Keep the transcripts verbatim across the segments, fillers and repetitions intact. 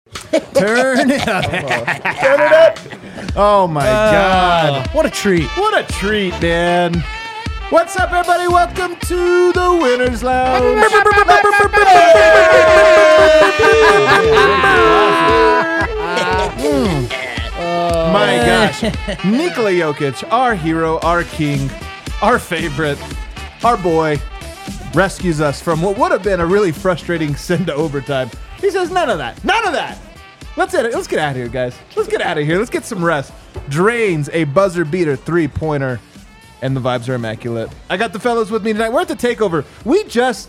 Turn it up. Turn it up. Oh, my uh, God. What a treat. What a treat, man. What's up, everybody? Welcome to the Winner's Lounge. mm. My gosh. Nikola Jokic, our hero, our king, our favorite, our boy, rescues us from what would have been a really frustrating send to overtime. He says, none of that. None of that. Let's get, let's get out of here, guys. Let's get out of here. Let's get some rest. Drains a buzzer beater three-pointer, and the vibes are immaculate. I got the fellows with me tonight. We're at the takeover. We just...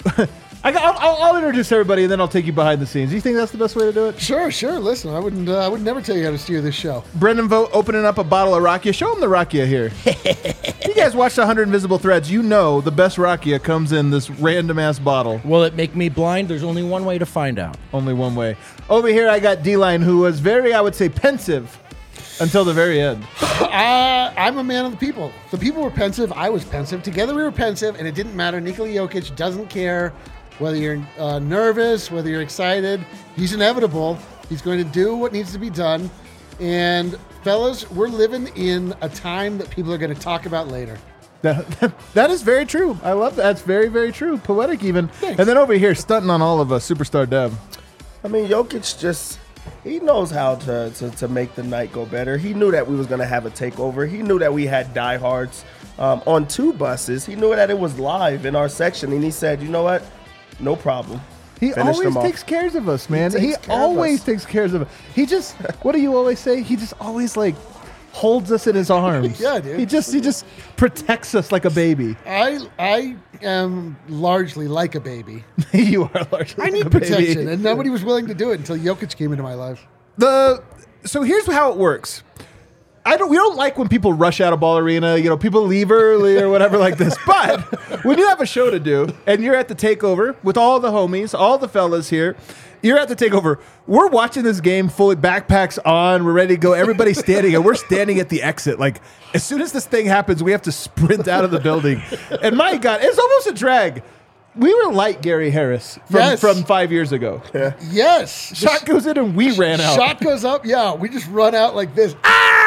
I got, I'll, I'll introduce everybody, and then I'll take you behind the scenes. Do you think that's the best way to do it? Sure, sure. Listen, I wouldn't. Uh, I would never tell you how to steer this show. Brendan Vogt opening up a bottle of Rakia. Show him the Rakia here. You guys watched one hundred Invisible Threads. You know the best Rakia comes in this random-ass bottle. Will it make me blind? There's only one way to find out. Only one way. Over here, I got D-Line, who was very, I would say, pensive until the very end. Uh, I'm a man of the people. The people were pensive. I was pensive. Together we were pensive, and it didn't matter. Nikola Jokic doesn't care whether you're uh, nervous, whether you're excited. He's inevitable. He's going to do what needs to be done. And fellas, we're living in a time that people are going to talk about later. That, that, that is very true. I love that. That's very, very true. Poetic even. Thanks. And then over here, stunting on all of us, Superstar Dev. I mean, Jokic just, he knows how to, to, to make the night go better. He knew that we was going to have a takeover. He knew that we had diehards um, on two buses. He knew that it was live in our section. And he said, you know what? No problem. He Finished always takes care of us, man. He, he always takes care of us. He just, what do you always say? He just always like holds us in his arms. Yeah, dude. He just, he just protects us like a baby. I, I am largely like a baby. You are largely. I like need a protection, baby. and nobody was willing to do it until Jokic came into my life. The so here's how it works. I don't. We don't like when people rush out of Ball Arena. You know, people leave early or whatever like this. But when you have a show to do and you're at the takeover with all the homies, all the fellas here, you're at the takeover. We're watching this game fully, backpacks on. We're ready to go. Everybody's standing, and we're standing at the exit. Like as soon as this thing happens, we have to sprint out of the building. And my God, it's almost a drag. We were like Gary Harris from, yes. from five years ago. Yeah. Yes. Shot goes in and we ran out. Shot goes up. Yeah, we just run out like this.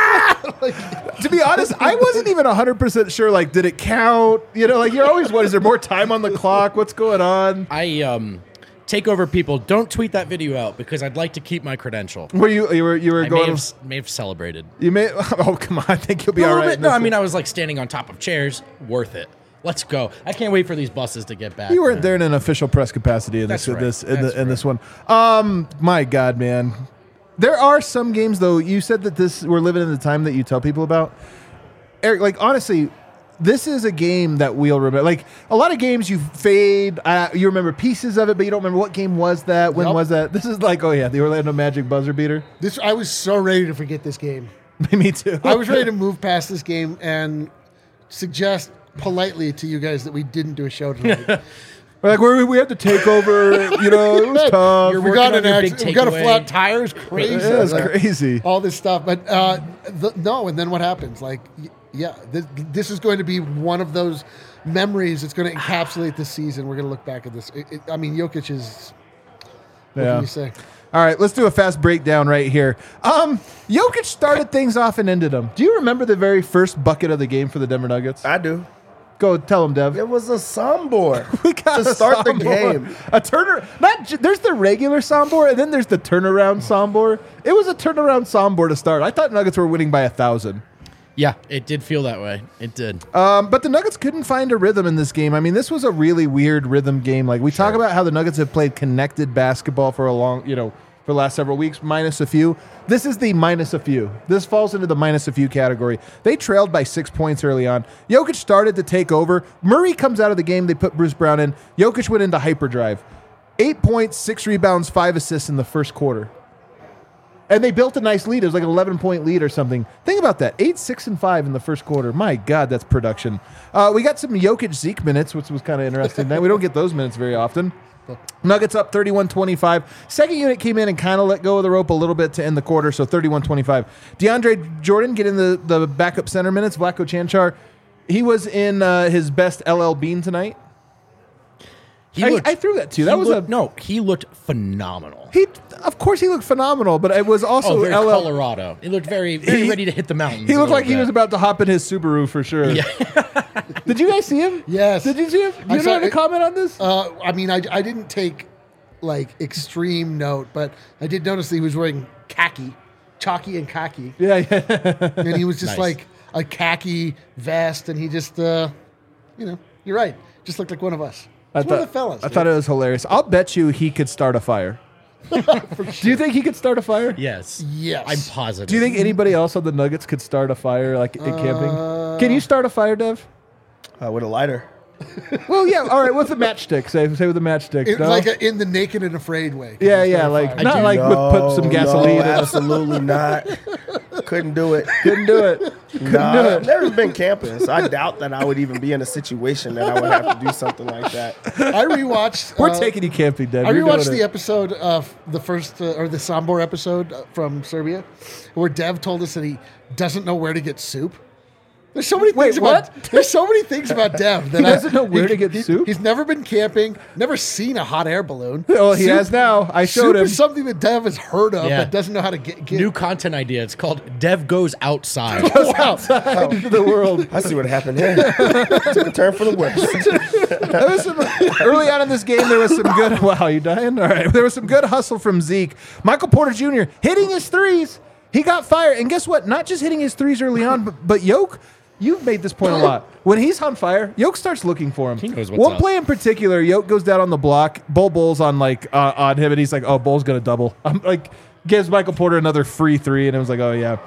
Like, to be honest, I wasn't even one hundred percent sure, like, did it count? You know, like, you're always, what, is there more time on the clock? What's going on? I, um, takeover people, don't tweet that video out because I'd like to keep my credential. Were you, you were, you were I going? may have, may have celebrated. You may, oh, come on, I think you'll be all right. Bit, no, I mean, I was like standing on top of chairs. Worth it. Let's go. I can't wait for these buses to get back. You weren't there in an official press capacity in this, That's right. this, in, That's the, in right. this one. Um, my God, man. There are some games, though. You said that this we're living in the time that you tell people about. Eric, like, honestly, this is a game that we'll remember. Like, a lot of games you fade. Uh, you remember pieces of it, but you don't remember what game was that, when Yep. was that. This is like, oh, yeah, the Orlando Magic buzzer beater. This I was so ready to forget this game. Me too. I was ready to move past this game and suggest politely to you guys that we didn't do a show tonight. We're like, we we had to take over. You know, it was tough. You're we working got on an your big accident. We got a takeaway. flat tire. It's crazy. Yeah, it's Like, crazy. all this stuff. But uh, the, no, and then what happens? Like, y- yeah, this, this is going to be one of those memories that's going to encapsulate this season. We're going to look back at this. It, it, I mean, Jokic is. What Yeah. can you say? All right, let's do a fast breakdown right here. Um, Jokic started things off and ended them. Do you remember the very first bucket of the game for the Denver Nuggets? I do. Go tell them, Dev. It was a soundboard We got to a start the soundboard. game. A turner. Not j- there's the regular soundboard, and then there's the turnaround soundboard. It was a turnaround soundboard to start. I thought Nuggets were winning by a thousand. Yeah, it did feel that way. It did. Um, but the Nuggets couldn't find a rhythm in this game. I mean, this was a really weird rhythm game. Like we talk about how the Nuggets have played connected basketball for a long, you know, for the last several weeks, minus a few. This is the minus a few. This falls into the minus a few category. They trailed by six points early on. Jokic started to take over. Murray comes out of the game. They put Bruce Brown in. Jokic went into hyperdrive. Eight points, six rebounds, five assists in the first quarter. And they built a nice lead. It was like an eleven-point lead or something. Think about that. Eight, six, and five in the first quarter. My God, that's production. Uh, we got some Jokic Zeke minutes, which was kind of interesting. We don't get those minutes very often. Nuggets up thirty-one twenty-five. Second unit came in and kind of let go of the rope a little bit to end the quarter, so thirty-one twenty-five. DeAndre Jordan getting the, the backup center minutes. Vlatko Cancar, he was in uh, his best L L Bean tonight. He I, looked, I threw that too. he That was looked, a no. He looked phenomenal. He, of course he looked phenomenal, but it was also Oh, very L L. Colorado. He looked very, very He- ready to hit the mountains. He a looked little like he bit. was about to hop in his Subaru for sure. Yeah. Did you guys see him? Yes. Did you see him? Do I you saw know how to it- comment on this? Uh, I mean, I, I didn't take like extreme note, but I did notice that he was wearing khaki, chalky and khaki, yeah, yeah. and he was just Nice. like a khaki vest, and he just, uh, you know, you're right, just looked like one of us. I It's one of thought, the fellas. I thought it was hilarious. I'll bet you he could start a fire. Do you think he could start a fire? Yes. Yes. I'm positive. Do you think anybody else on the Nuggets could start a fire like in camping? Can you start a fire, Dev? Uh, with a lighter. Well, yeah. All right, with a matchstick. Say, say with a matchstick. It- no? like a, in the naked and afraid way. yeah, Just yeah. start a Like fire. not do like with put some No, gasoline. No, in it. absolutely not. Couldn't do it. Couldn't do it. Couldn't Nah, do I've it. never been camping, so I doubt that I would even be in a situation that I would have to do something like that. I rewatched. We're uh, taking you camping, Dev. I You're rewatched doing the it. episode of the first uh, or the Sombor episode uh, from Serbia, where Dev told us that he doesn't know where to get soup. There's so many Wait, things what? about there's so many things about Dev that He I- doesn't know where to get he- soup? He's never been camping, never seen a hot air balloon. Well, he Soup- has now. I showed Soup him. is something that Dev has heard of, Yeah. but doesn't know how to get. get. New content idea. It's called Dev Goes Outside. Wow. outside into the world. I see what happened here. Took a turn for the worse. There was some, early on in this game, there was some good. Wow, you dying? All right. There was some good hustle from Zeke. Michael Porter Junior hitting his threes. He got fired, and guess what? Not just hitting his threes early on, but, but Yoke. You've made this point a lot. When he's on fire, Yoke starts looking for him. He knows what's One up. play in particular, Yoke goes down on the block. Bull Bull's on like uh, on him, and he's like, "Oh, Bull's gonna double." I'm like, gives Michael Porter another free three, and it was like, "Oh yeah."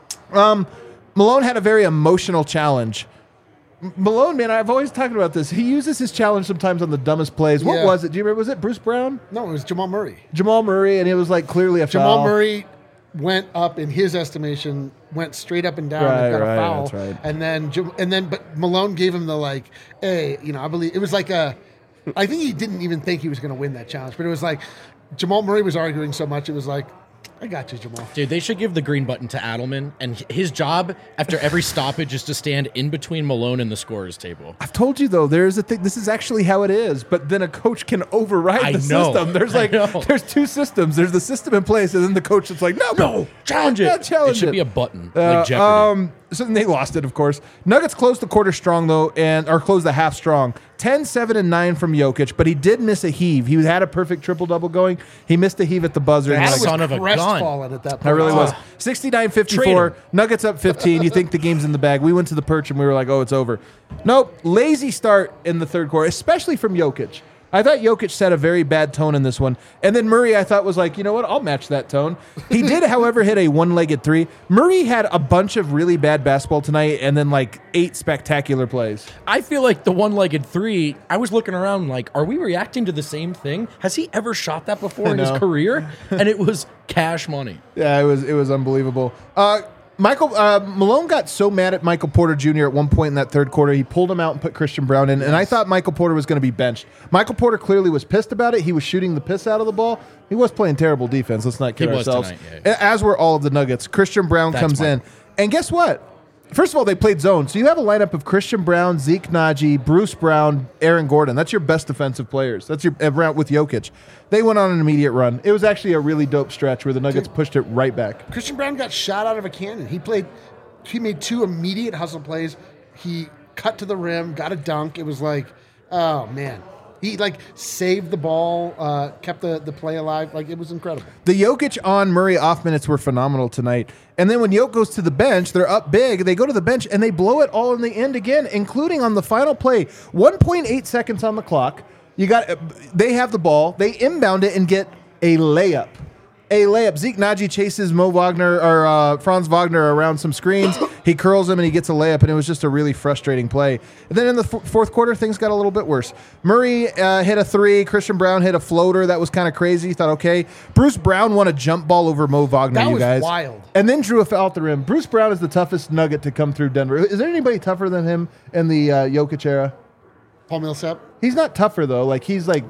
Um, Malone had a very emotional challenge. M- Malone, man, I've always talked about this. He uses his challenge sometimes on the dumbest plays. What Yeah. was it? Do you remember? Was it Bruce Brown, No, it was Jamal Murray. Jamal Murray, and it was like clearly a Jamal foul. Murray went up in his estimation, went straight up and down Right, and got right, a foul. that's right. And then Jam- and then but Malone gave him the like, hey, you know, I believe it was like a I think he didn't even think he was going to win that challenge, but it was like Jamal Murray was arguing so much it was like, I got you, Jamal. Dude, they should give the green button to Adelman, and his job after every stoppage is to stand in between Malone and the scorer's table. I've told you though, there's a thing. This is actually how it is. But then a coach can override I the know. system. There's I like know. there's two systems. There's the system in place, and then the coach is like, no, No, challenge it. Yeah, challenge it should it. be a button, Uh, like Jeopardy. um, so then they lost it, of course. Nuggets closed the quarter strong, though, and or closed the half strong. ten, seven, and nine from Jokic, but he did miss a heave. He had a perfect triple-double going. He missed a heave at the buzzer. and Adam like, son was of a gun. crestfallen at that point. I really was. Oh. sixty-nine Trade fifty-four. him. Nuggets up fifteen. You think the game's in the bag. We went to the perch and we were like, oh, it's over. Nope. Lazy start in the third quarter, especially from Jokic. I thought Jokic set a very bad tone in this one. And then Murray, I thought, was like, you know what? I'll match that tone. He did, however, hit a one-legged three. Murray had a bunch of really bad basketball tonight and then like eight spectacular plays. I feel like the one-legged three, I was looking around like, are we reacting to the same thing? Has he ever shot that before in his know. career? And it was cash money. Yeah, it was it was unbelievable. Uh, Michael uh, Malone got so mad at Michael Porter Junior at one point in that third quarter, he pulled him out and put Christian Brown in, and I thought Michael Porter was going to be benched. Michael Porter clearly was pissed about it. He was shooting the piss out of the ball. He was playing terrible defense. Let's not kid He was ourselves. tonight, yeah. As were all of the Nuggets. Christian Brown That's comes fine. in, and guess what? First of all, they played zone. So you have a lineup of Christian Brown, Zeke Naji, Bruce Brown, Aaron Gordon. That's your best defensive players. That's your around with Jokic. They went on an immediate run. It was actually a really dope stretch where the Nuggets pushed it right back. Christian Brown got shot out of a cannon. He played, he made two immediate hustle plays. He cut to the rim, got a dunk. It was like, oh man. He like saved the ball, uh, kept the, the play alive. Like it was incredible. The Jokic on Murray off minutes were phenomenal tonight. And then when Jokic goes to the bench, they're up big. They go to the bench and they blow it all in the end again, including on the final play. one point eight seconds on the clock. You got they have the ball. They inbound it and get a layup. A layup. Zeke Naji chases Mo Wagner or uh, Franz Wagner around some screens. He curls him and he gets a layup, and it was just a really frustrating play. And then in the f- fourth quarter, things got a little bit worse. Murray uh, hit a three. Christian Brown hit a floater. That was kind of crazy. You thought, okay. Bruce Brown won a jump ball over Mo Wagner, That you was guys. wild. And then drew a foul at the rim. Bruce Brown is the toughest nugget to come through Denver. Is there anybody tougher than him in the uh, Jokic era? Paul Millsap. He's not tougher, though. Like, he's like,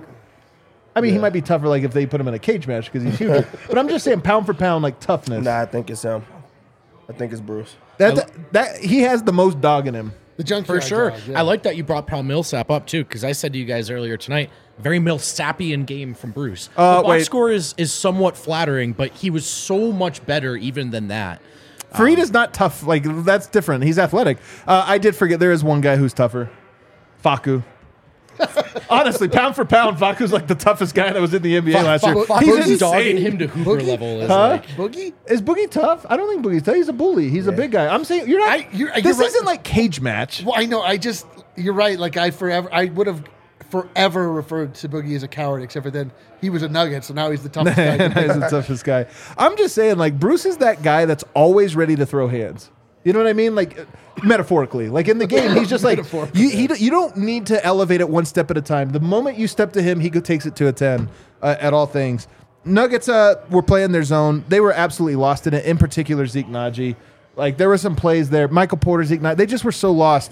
I mean, he Yeah. might be tougher like if they put him in a cage match because he's huge. But I'm just saying pound for pound, like toughness. Nah, I think it's him. I think it's Bruce. That, that, that he has the most dog in him. The junkyard For sure. dog, yeah. I like that you brought Paul Millsap up, too, because I said to you guys earlier tonight, very Millsapian game from Bruce. Uh, the box wait. score is, is somewhat flattering, but he was so much better even than that. Fareed is not tough. Like, that's different. He's athletic. Uh, I did forget there is one guy who's tougher. Facu. Honestly, pound for pound, Facu's like the toughest guy that was in the N B A Fa- last Fa- year. Fa- He's Boogie's dogging insane. him to Hooper Boogie? level is Huh? like... Boogie? Is Boogie tough? I don't think Boogie's tough. He's a bully. He's a big guy. I'm saying you're not. I- you're- you're this right. isn't like cage match. Well, I know. I just you're right. Like I forever, I would have forever referred to Boogie as a coward, except for then he was a Nugget, so now he's the toughest guy. He's the toughest guy. I'm just saying, like Bruce is that guy that's always ready to throw hands. You know what I mean? Like uh, metaphorically, like in the game, he's just like Metaphorically, you. He, you don't need to elevate it one step at a time. The moment you step to him, he go- takes it to a ten uh, at all things. Nuggets uh, were playing their zone. They were absolutely lost in it. In particular, Zeke Naji. Like there were some plays there. Michael Porter, Zeke Naji. They just were so lost.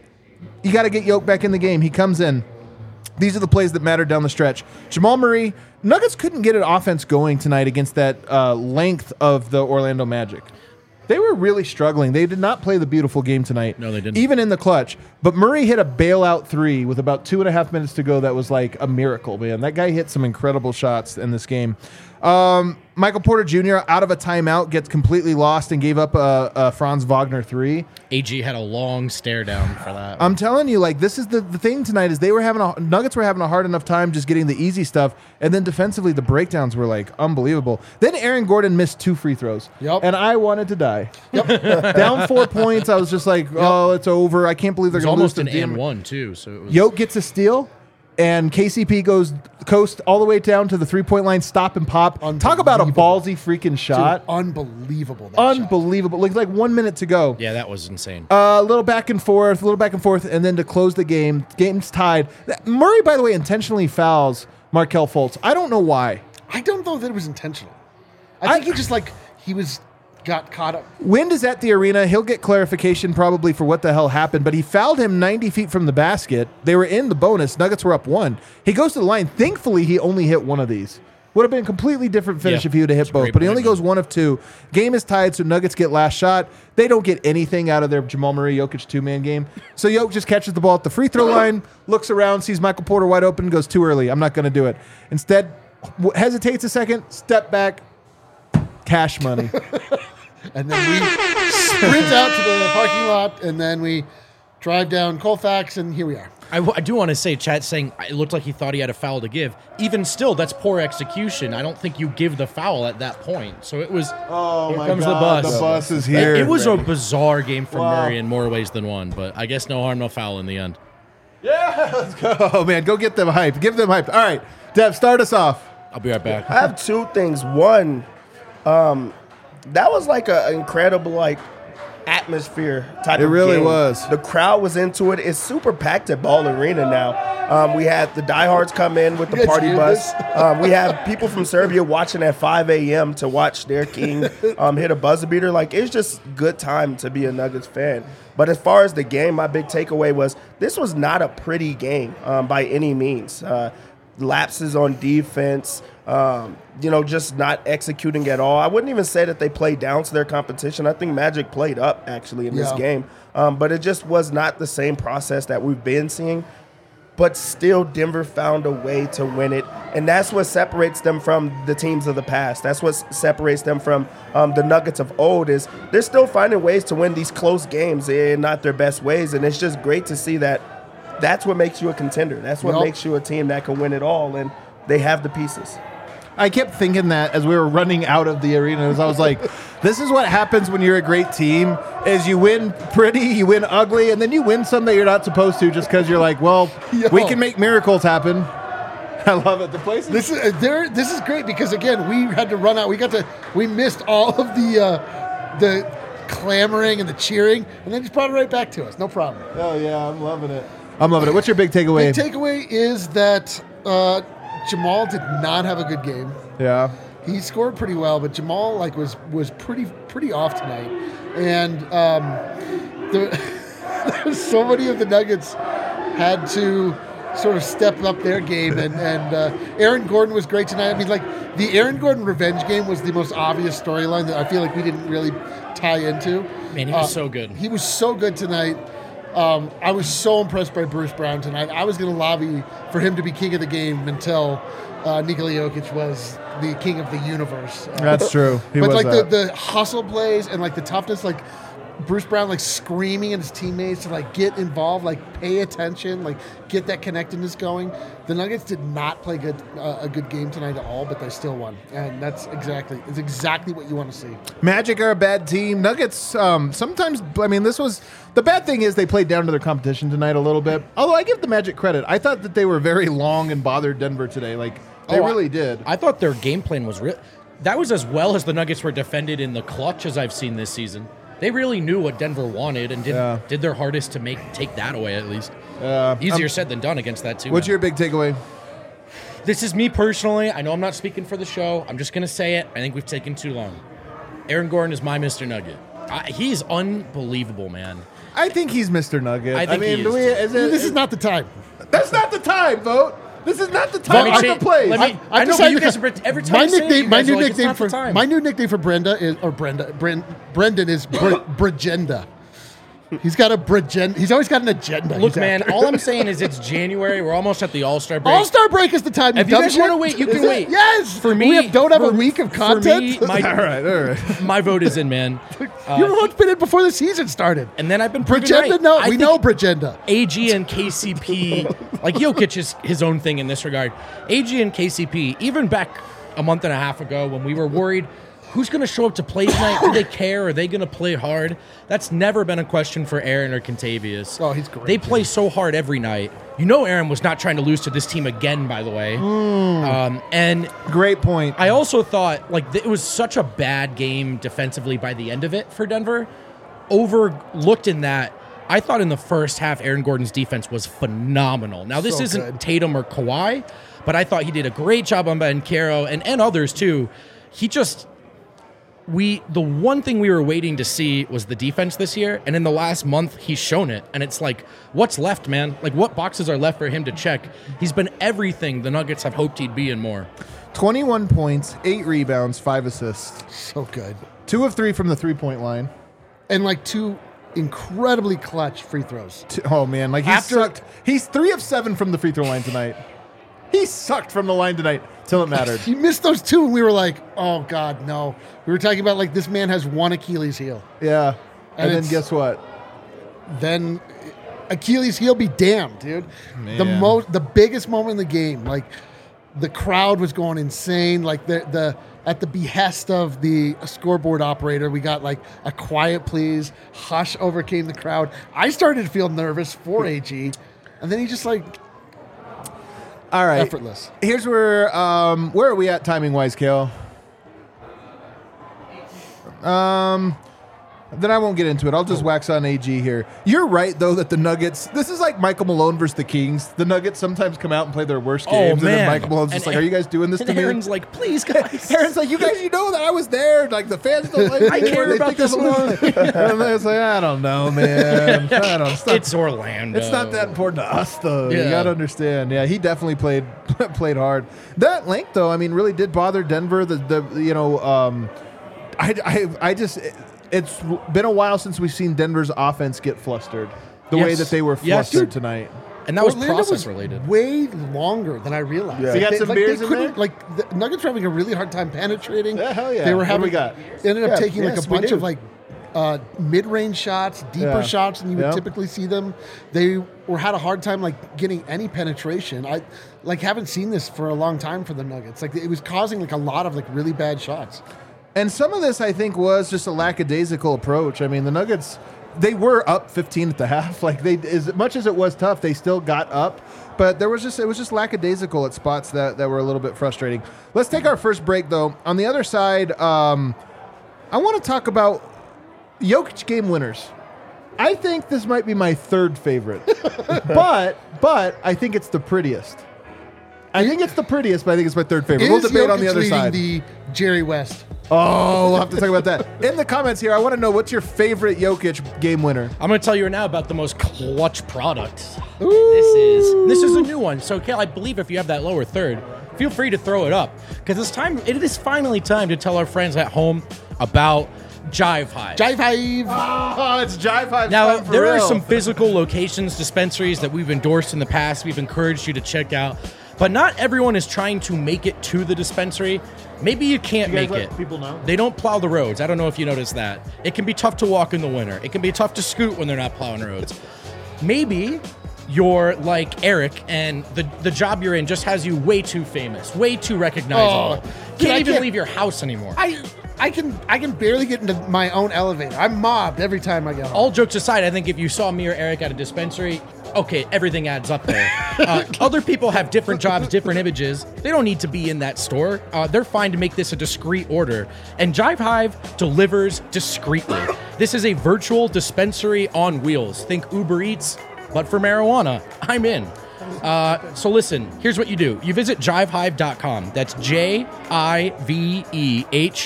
You got to get Yoke back in the game. He comes in. These are the plays that matter down the stretch. Jamal Murray, Nuggets couldn't get an offense going tonight against that uh, length of the Orlando Magic. They were really struggling. They did not play the beautiful game tonight. No, they didn't. Even in the clutch. But Murray hit a bailout three with about two and a half minutes to go. That was like a miracle, man. That guy hit some incredible shots in this game. Um, Michael Porter Junior out of a timeout gets completely lost and gave up a, a Franz Wagner three. A G had a long stare down for that. I'm telling you, like this is the, the thing tonight is they were having a Nuggets were having a hard enough time just getting the easy stuff, and then defensively the breakdowns were like unbelievable. Then Aaron Gordon missed two free throws, Yep. and I wanted to die. Yep. Down four points, I was just like, oh, it's over. I can't believe it they're was going to lose almost to an the and damn- one, too. So it was... Yoke gets a steal, and K C P goes coast all the way down to the three point line, stop and pop. Talk about a Unbelievable. ballsy freaking shot. Dude, unbelievable. That shot. Unbelievable. Like like one minute to go. Yeah, that was insane. A little back and forth, a little back and forth, and then to close the game, game's tied. Murray, by the way, intentionally fouls Markelle Fultz. I don't know why. I don't know that it was intentional. I I- think he just like he was got caught up. Wind is at the arena. He'll get clarification probably for what the hell happened, but he fouled him ninety feet from the basket. They were in the bonus. Nuggets were up one. He goes to the line. Thankfully, he only hit one of these. Would have been a completely different finish Yeah, if he would have that's hit a both, great but he point, only man. goes one of two. Game is tied, so Nuggets get last shot. They don't get anything out of their Jamal Murray Jokic two-man game. So Jokic just catches the ball at the free throw line, looks around, sees Michael Porter wide open, goes too early. I'm not going to do it. Instead, w- hesitates a second, step back, cash money. And then we sprint out to the parking lot, and then we drive down Colfax, and here we are. I, w- I do want to say, Chad saying it looked like he thought he had a foul to give. Even still, that's poor execution. I don't think you give the foul at that point. So it was. Oh Here comes the bus. The bus is It, here. it was a bizarre game from Wow. Murray in more ways than one, but I guess no harm, no foul in the end. Yeah, let's go. Oh, man, go get them hype. Give them hype. All right, Dev, start us off. I'll be right back. I have two things. One, um, that was like an incredible like atmosphere type It of really game. was. The crowd was into it. It's super packed at Ball Arena now. Um, we had the diehards come in with the You guys party hear bus. this? Um, we have people from Serbia watching at five a.m. to watch their king um, hit a buzzer beater. Like, it's just good time to be a Nuggets fan. But as far as the game, my big takeaway was this was not a pretty game um, by any means. Uh, lapses on defense, um, you know, just not executing at all. I wouldn't even say that they played down to their competition. I think Magic played up, actually, in this Yeah. game. Um, but it just was not the same process that we've been seeing. But still, Denver found a way to win it. And that's what separates them from the teams of the past. That's what s- separates them from um, the Nuggets of old is they're still finding ways to win these close games in not their best ways. And it's just great to see that that's what makes you a contender. That's what Yep. makes you a team that can win it all. And they have the pieces. I kept thinking that as we were running out of the arena, as I was like, this is what happens when you're a great team, is you win pretty, you win ugly, and then you win some that you're not supposed to just because you're like, well, Yo. we can make miracles happen. I love it. The place is This is uh, there. This is great because again, we had to run out. We got to. We missed all of the uh, the clamoring and the cheering, and then just brought it right back to us. No problem. Oh, yeah, I'm loving it. I'm loving it. What's your big takeaway? The takeaway is that uh, Jamal did not have a good game. yeah. He scored pretty well, but Jamal like was was pretty pretty off tonight, and um, the, so many of the Nuggets had to sort of step up their game, and and uh, Aaron Gordon was great tonight. I mean, like the Aaron Gordon revenge game was the most obvious storyline that I feel like we didn't really tie into. Man, he was Uh, so good. He was so good tonight. Um, I was so impressed by Bruce Brown tonight. I was going to lobby for him to be king of the game until uh, Nikola Jokic was the king of the universe. Uh, That's true. He but was like that. the, the hustle plays and like the toughness, like Bruce Brown like screaming at his teammates to like get involved, like pay attention, like get that connectedness going. The Nuggets did not play good uh, a good game tonight at all, but they still won, and that's exactly it's exactly what you want to see. Magic are a bad team. Nuggets, um, sometimes, I mean, this was, the bad thing is they played down to their competition tonight a little bit. Although I give the Magic credit. I thought that they were very long and bothered Denver today. Like, they Oh, I- really did. I thought their game plan was real. That was as well as the Nuggets were defended in the clutch as I've seen this season. They really knew what Denver wanted and did Yeah. did their hardest to make take that away at least. Uh, Easier um, said than done against that too. What's man. your big takeaway? This is me personally. I know I'm not speaking for the show. I'm just gonna say it. I think we've taken too long. Aaron Gordon is my Mister Nugget. I, he's unbelievable, man. I think he's Mister Nugget. I think mean, he do is, we, too. is it, This is not the time. That's not the time, vote. This is not the time Let or me the cha- place. let me- I know, decided but you to- guys are- every time my I say it, nickname, you my guys new are like, "It's nickname not the for time." my new nickname for Brenda is or Brenda Bren, Brendan is Br- Bragenda. He's got a Bragenda. He's always got an agenda. Look, He's man, after. all I'm saying is it's January. We're almost at the All-Star break. All Star break is the time. If you dumb guys shit. wanna wait, you Is can it? wait. Yes. For me- we have, don't have for- a week of for content. me, my- all right, all right. My vote is in, man. you remember what's been in before the season started? And then I've been proven Bragenda, right. no, I we think know Bragenda. A G and K C P, like Jokic is his own thing in this regard. A G and K C P, even back a month and a half ago when we were worried, who's going to show up to play tonight? Do they care? Are they going to play hard? That's never been a question for Aaron or Contavious. Oh, he's great, They play so hard every night. You know Aaron was not trying to lose to this team again, by the way. Um, and Great point. I also thought like th- it was such a bad game defensively by the end of it for Denver. Overlooked in that, I thought in the first half Aaron Gordon's defense was phenomenal. Now this So isn't good. Tatum or Kawhi, but I thought he did a great job on Banchero and and others too. He just we the one thing we were waiting to see was the defense this year, and in the last month he's shown it. And it's like, what's left, man? Like what boxes are left for him to check? He's been everything the Nuggets have hoped he'd be and more. twenty-one points, eight rebounds, five assists. So good. Two of three from the three-point line. And like two incredibly clutch free throws. Two, oh, man. Like, he After- sucked. He's three of seven from the free throw line tonight. He sucked from the line tonight till it mattered. He missed those two, and we were like, "Oh God, no!" We were talking about like this man has one Achilles heel. Yeah. And, And then it's- guess what? Then Achilles heel be damned, dude. The Man. most, the biggest moment in the game, like the crowd was going insane. Like the the at the behest of the scoreboard operator, we got like a quiet please. Hush overcame the crowd. I started to feel nervous for A G, and then he just like All right. effortless. Here's where um where are we at timing wise, Kale? Um then I won't get into it. I'll just wax on A G here. You're right though that the Nuggets, this is like Michael Malone versus the Kings. The Nuggets sometimes come out and play their worst games, and then man. Michael Malone's just And like, "Are you guys doing this and to me?" Aaron's like, please, guys. Aaron's like, "You guys, you know that I was there. Like the fans don't like. I me care anymore. They about think I'm this losing." And then it's like, I don't know, man. I don't. It's not, It's Orlando. it's not that important to us, though. You Yeah. got to understand. Yeah, he definitely played played hard. That length, though, I mean, really did bother Denver. The the you know, um, I I I just. It's been a while since we've seen Denver's offense get flustered the way Yes. that they were Yes. flustered tonight. And that was Orlando process related. Way longer than I realized. Yeah. So you got They- some like, beers they in couldn't- there? Like the Nuggets were having a really hard time penetrating. Yeah, hell yeah. They were What do having. we got? They ended up Yeah, taking like yes, a we bunch do. of like uh, mid-range shots, deeper Yeah. shots than you would Yeah. typically see them. They were had a hard time like getting any penetration. I like haven't seen this for a long time for the Nuggets. Like it was causing like a lot of like really bad shots. And some of this, I think, was just a lackadaisical approach. I mean, the Nuggets, they were up fifteen at the half. Like they, as much as it was tough, they still got up. But there was just it was just lackadaisical at spots that, that were a little bit frustrating. Let's take our first break, though. On the other side, um, I want to talk about Jokic game winners. I think this might be my third favorite, but but I think it's the prettiest. I think it's the prettiest, but I think it's my third favorite. We'll Is debate on Jokic the other leading side. The Jerry West. Oh, we'll have to talk about that. In the comments here, I want to know what's your favorite Jokic game winner? I'm going to tell you right now about the most clutch product. This is this is a new one. So, Kel, I believe if you have that lower third, feel free to throw it up because it's time. It is finally time to tell our friends at home about Jive Hive. Jive Hive. Oh, it's Jive Hive. Now, time for there are real. some physical locations, dispensaries that we've endorsed in the past. We've encouraged you to check out. But not everyone is trying to make it to the dispensary. Maybe you can't You guys make let it. people know? They don't plow the roads. I don't know if you noticed that. It can be tough to walk in the winter. It can be tough to scoot when they're not plowing roads. Maybe you're like Eric and the, the job you're in just has you way too famous, way too recognizable. Oh, can't dude, I even can't- leave your house anymore. I I can I can barely get into my own elevator. I'm mobbed every time I get home. All jokes aside, I think if you saw me or Eric at a dispensary, okay, everything adds up there. Uh, other people have different jobs, different images. They don't need to be in that store. Uh, they're fine to make this a discreet order. And Jive Hive delivers discreetly. This is a virtual dispensary on wheels. Think Uber Eats, but for marijuana. I'm in. Uh, so listen, here's what you do. You visit jive hive dot com. That's J I V E H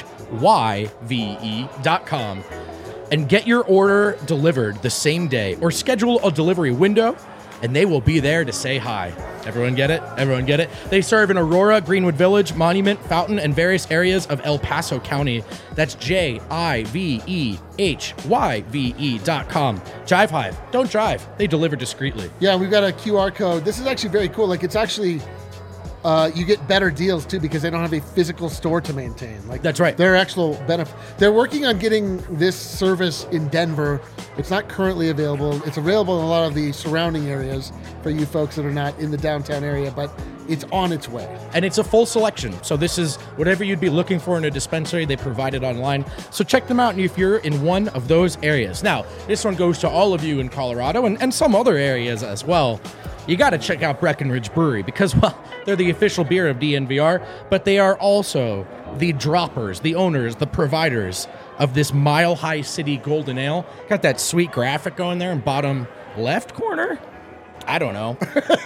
Y V E dot com. And get your order delivered the same day or schedule a delivery window and they will be there to say hi. Everyone get it? Everyone get it? They serve in Aurora, Greenwood Village, Monument, Fountain, and various areas of El Paso County. That's J I V E H Y V E dot com. Jive Hive. Don't drive. They deliver discreetly. Yeah, we've got a Q R code. This is actually very cool. Like, it's actually, uh, you get better deals too because they don't have a physical store to maintain. Like, That's right. Their actual benefit. They're working on getting this service in Denver. It's not currently available. It's available in a lot of the surrounding areas for you folks that are not in the downtown area, but it's on its way. And it's a full selection. So this is whatever you'd be looking for in a dispensary, they provide it online. So check them out if you're in one of those areas. Now, this one goes to all of you in Colorado and, and some other areas as well. You got to check out Breckenridge Brewery because, well, they're the official beer of D N V R, but they are also the droppers, the owners, the providers of this Mile High City Golden Ale. Got that sweet graphic going there in bottom left corner. I don't know.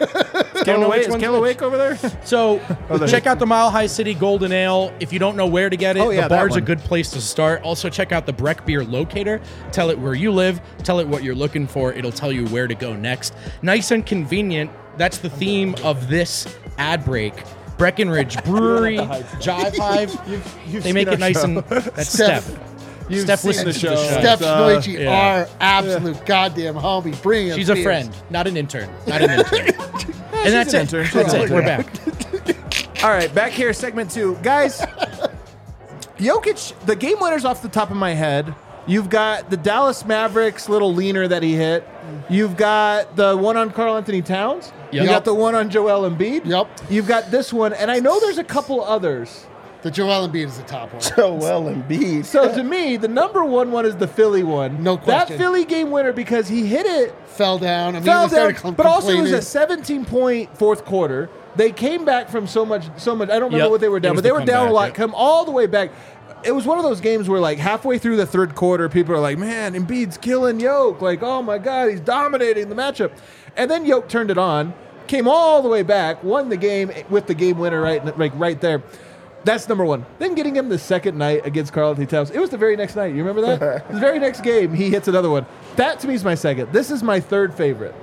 Scale know away, which is one's Scale which. Awake over there? So there check is. out the Mile High City Golden Ale. If you don't know where to get it, Oh, yeah, the that bar's a one. good place to start. Also check out the Breck Beer Locator. Tell it where you live. Tell it what you're looking for. It'll tell you where to go next. Nice and convenient. That's the theme of this ad break. Breckenridge Brewery, Jive Hive. you've they make seen it our nice show. and that's Steph. Steph. You've Steph seen listens the to the show. show. Steph uh, Stoici, yeah. our absolute goddamn homie. Bring us She's a beers. friend, not an intern. Not an intern. and that's an it. intern. She's That's an it. We're intern. back. All right, back here, segment two. Guys, Jokic, the game winners off the top of my head. You've got the Dallas Mavericks little leaner that he hit. You've got the one on Karl Anthony Towns. Yep. You got the one on Joel Embiid. Yep. You've got this one, and I know there's a couple others. The Joel Embiid is the top one. Joel Embiid. So to me, the number one one is the Philly one. No question. That Philly game winner because he hit it, Fell down. I mean, fell they started down, com- but also it was complaining. a seventeen point fourth quarter. They came back from so much, so much. I don't remember Yep. what they were It down, was but they the were down a comeback, lot. yep. Come all the way back. It was one of those games where, like, halfway through the third quarter, people are like, "Man, Embiid's killing Yoke! Like, oh my God, he's dominating the matchup." And then Yoke turned it on, came all the way back, won the game with the game winner right, like right there. That's number one. Then getting him the second night against Karl Anthony Towns. It was the very next night. You remember that? The very next game, he hits another one. That to me is my second. This is my third favorite.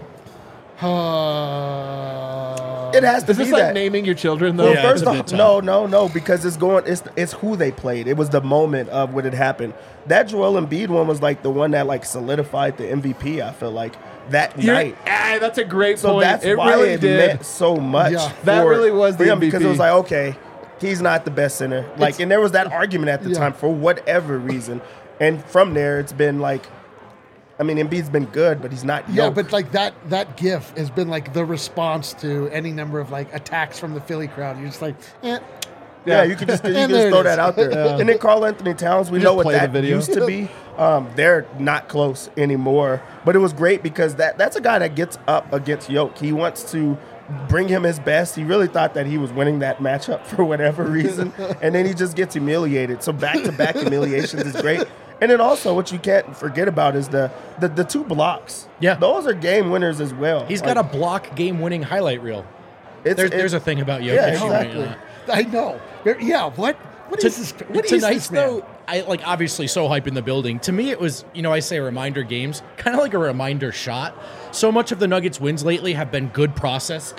Uh, It has to Is be this like that. naming your children though? Well, Yeah, first it's a off, bit tough. no, no, no, because it's going. It's it's who they played. It was the moment of when it happened. That Joel Embiid one was like the one that like solidified the M V P. I feel like that You're- night. ah, that's a great So point. that's it why really it did. meant so much. Yeah. That for- really was for the him because it M V P. was like, okay, he's not the best center. Like, It's- and there was that argument at the Yeah. time for whatever reason, and from there it's been like, I mean, Embiid's been good, but he's not. Yeah, Jokic. but like that that gif has been like the response to any number of like attacks from the Philly crowd. You're just like, eh. Yeah, you can just, you can And just there it throw is. that out there. And then Karl Anthony Towns, we Just know what play the that video. used to be. Um, they're not close anymore. But it was great because that that's a guy that gets up against Yoke. He wants to bring him his best. He really thought that he was winning that matchup for whatever reason. And then he just gets humiliated. So back-to-back humiliations is great. And then also what you can't forget about is the the, the two blocks. Yeah. Those are game winners as well. He's Like, got a block game-winning highlight reel. it's, There's, it's- there's a thing about Jokic. Yeah, you might exactly. not. I know. There- Yeah, what? What is this? What is Tonight's this, man? though, I like obviously so hype in the building. To me, it was you know I say reminder games, kind of like a reminder shot. So much of the Nuggets' wins lately have been good process and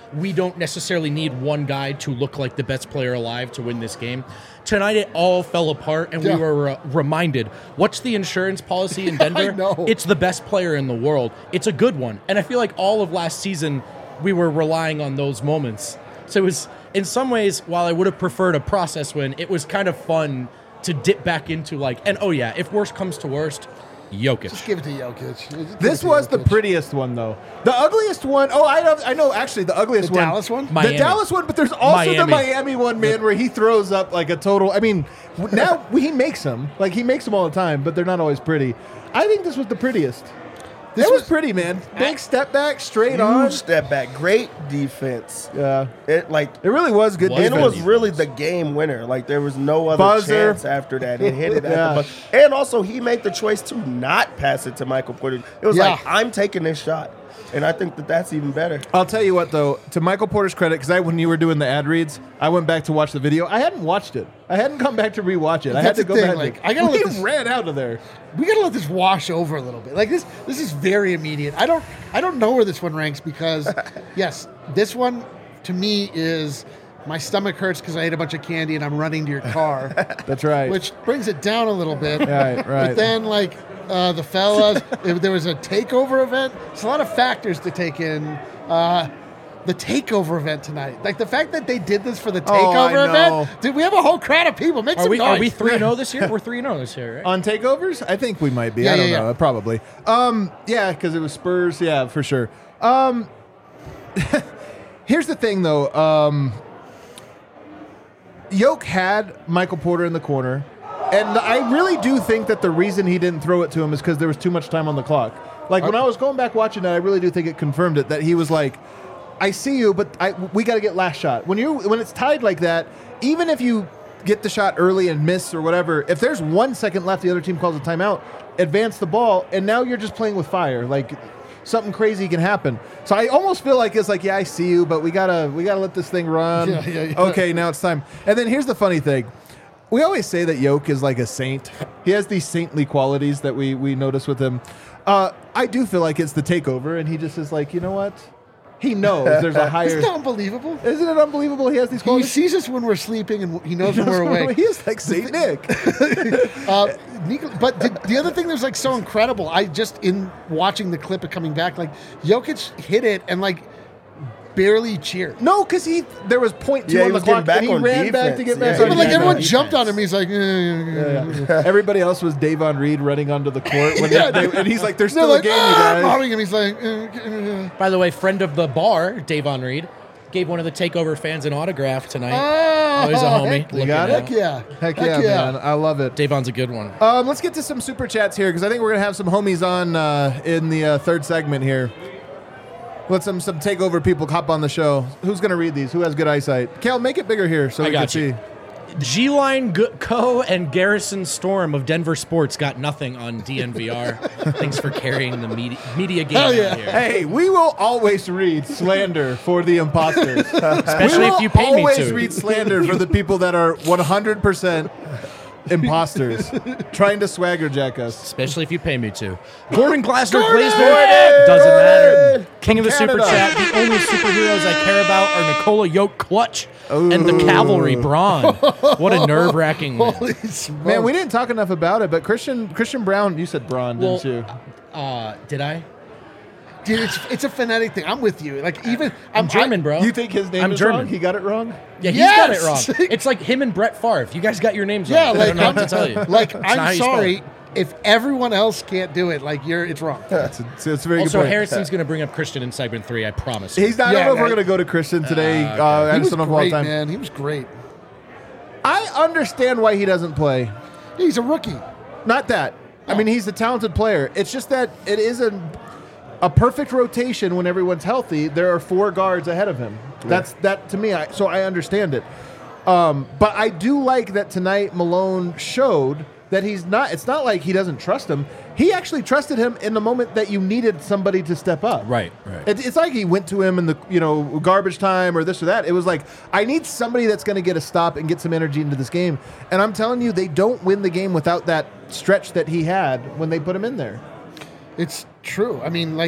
we don't necessarily need one guy to look like the best player alive to win this game. Tonight, it all fell apart, and Yeah. we were uh, reminded, what's the insurance policy in Denver? I know. It's the best player in the world. It's a good one. And I feel like all of last season, we were relying on those moments. So it was, in some ways, while I would have preferred a process win, it was kind of fun to dip back into, like, and oh yeah, if worst comes to worst, Jokic. Just give it to Jokic. Just give This it to was the Jokic. prettiest one, though. The ugliest one. Oh, I know. I know. Actually, the ugliest The one. Dallas one? The Miami. Dallas one, but there's also the Miami. Miami one, man, where he throws up like a total. I mean, w- now he makes them. Like he makes them all the time, but they're not always pretty. I think this was the prettiest. This This was was- pretty, man. Big step back, straight Huge on. step back. Great defense. Yeah, It like it really was good. Was and it defense. was really the game winner. Like there was no other Buzzer. chance after that. It hit it at Yeah. the buzzer. And also he made the choice to not pass it to Michael Porter. It was Yeah. like I'm taking this shot, and I think that that's even better. I'll tell you what, though, to Michael Porter's credit, because I when you were doing the ad reads, I went back to watch the video. I hadn't watched it. I hadn't come back to rewatch it. I had That's to the go thing, back. like, to, I gotta we let this- ran out of there. We gotta let this wash over a little bit. Like this, this is very immediate. I don't, I don't know where this one ranks because, yes, this one to me is my stomach hurts because I ate a bunch of candy and I'm running to your car, That's right. which brings it down a little bit. Right, right. But then like uh, the fellas, if there was a takeover event, it's a lot of factors to take in. Uh, the takeover event tonight, like the fact that they did this for the Oh, I takeover know. event, dude, we have a whole crowd of people. Make Are some we, noise. are we three and oh this year? We're three and oh this year, right? On takeovers? I think we might be. Yeah, I don't yeah, know. yeah. Probably. Um, yeah, because it was Spurs. Yeah, for sure. Um, here's the thing, though. Um, Yoke had Michael Porter in the corner, and I really do think that the reason he didn't throw it to him is because there was too much time on the clock. Like when I was going back watching it, I really do think it confirmed it that he was like, "I see you, but I, we got to get last shot." When you when it's tied like that, even if you get the shot early and miss or whatever, if there's one second left, the other team calls a timeout, advance the ball, and now you're just playing with fire. Like something crazy can happen. So I almost feel like it's like, yeah, I see you, but we gotta we gotta let this thing run. Yeah, yeah, yeah. Okay, now it's time. And then here's the funny thing. We always say that Yoke is like a saint. He has these saintly qualities that we we notice with him. Uh, I do feel like it's the takeover, and he just is like, you know what? He knows there's a higher. Isn't that unbelievable? Isn't it unbelievable? He has these He qualities. sees us when we're sleeping and he knows when we're awake. He is like Saint Nick. Uh, Nik- but the, the other thing that was like so incredible, I just in watching the clip of coming back, like Jokic hit it and like barely cheered. No, because he there was point two Yeah, he on the was getting clock, back and he on ran back to defense. get back Yeah, on but like yeah, everyone defense. jumped on him. He's like, eh, eh, eh. Everybody else was Davon Reed running onto the court, when Yeah. they, and he's like, "There's They're still like, a game, you ah, guys." mobbing him. He's like, eh, eh, eh. By the way, friend of the bar, Davon Reed, gave one of the takeover fans an autograph tonight. Oh, he's a homie. heck, You got Looking it? out. Heck yeah. Heck yeah, man! I love it. Davon's a good one. Um, let's get to some super chats here because I think we're gonna have some homies on uh, in the uh, third segment here. Let some some takeover people hop on the show. Who's gonna read these? Who has good eyesight? Cal, make it bigger here so I we can got you. see. G-Line Go- Co. and Garrison Storm of Denver Sports got nothing on D N V R. Thanks for carrying the media, media game Hell out yeah. here. Hey, we will always read slander for the imposters. Especially we will if you pay me always to. read slander for the people that are one hundred percent imposters trying to swagger jack us. Especially if you pay me to. Gordon Glasner Gordon! Glazner doesn't matter. King of the From Super Canada. Chat. The only superheroes I care about are Nikola Yoke Clutch and the Cavalry Braun. What a nerve-wracking win. Holy smokes. Man, we didn't talk enough about it, but Christian Christian Brown, you said Braun, Well, didn't you? Uh, did I? Dude, it's, it's a phonetic thing. I'm with you. Like even I'm German, I- bro. You think his name I'm is German. wrong? He got it wrong? Yeah, he's Yes! got it wrong. It's like him and Brett Favre. You guys got your names Yeah, wrong. like I don't know what I'm, to tell you. like It's not how I'm you spell sorry it. if everyone else can't do it. Like you're, it's wrong. That's a, it's a very Also, good point. Harrison's going to bring up Christian in segment three. I promise. you. He's not. I Yeah, don't know if we're right. going to go to Christian today. Uh, I He just was don't know if we'll have great, time. man. He was great. I understand why he doesn't play. He's a rookie. Not that. I mean, he's a talented player. It's just that it is a, a perfect rotation when everyone's healthy. There are four guards ahead of him. That's that to me. I, so I understand it. Um, but I do like that tonight Malone showed that he's not. It's not like he doesn't trust him. He actually trusted him in the moment that you needed somebody to step up. Right, right. It, it's like he went to him in the you know garbage time or this or that. It was like I need somebody that's going to get a stop and get some energy into this game. And I'm telling you, they don't win the game without that stretch that he had when they put him in there. It's true. I mean, like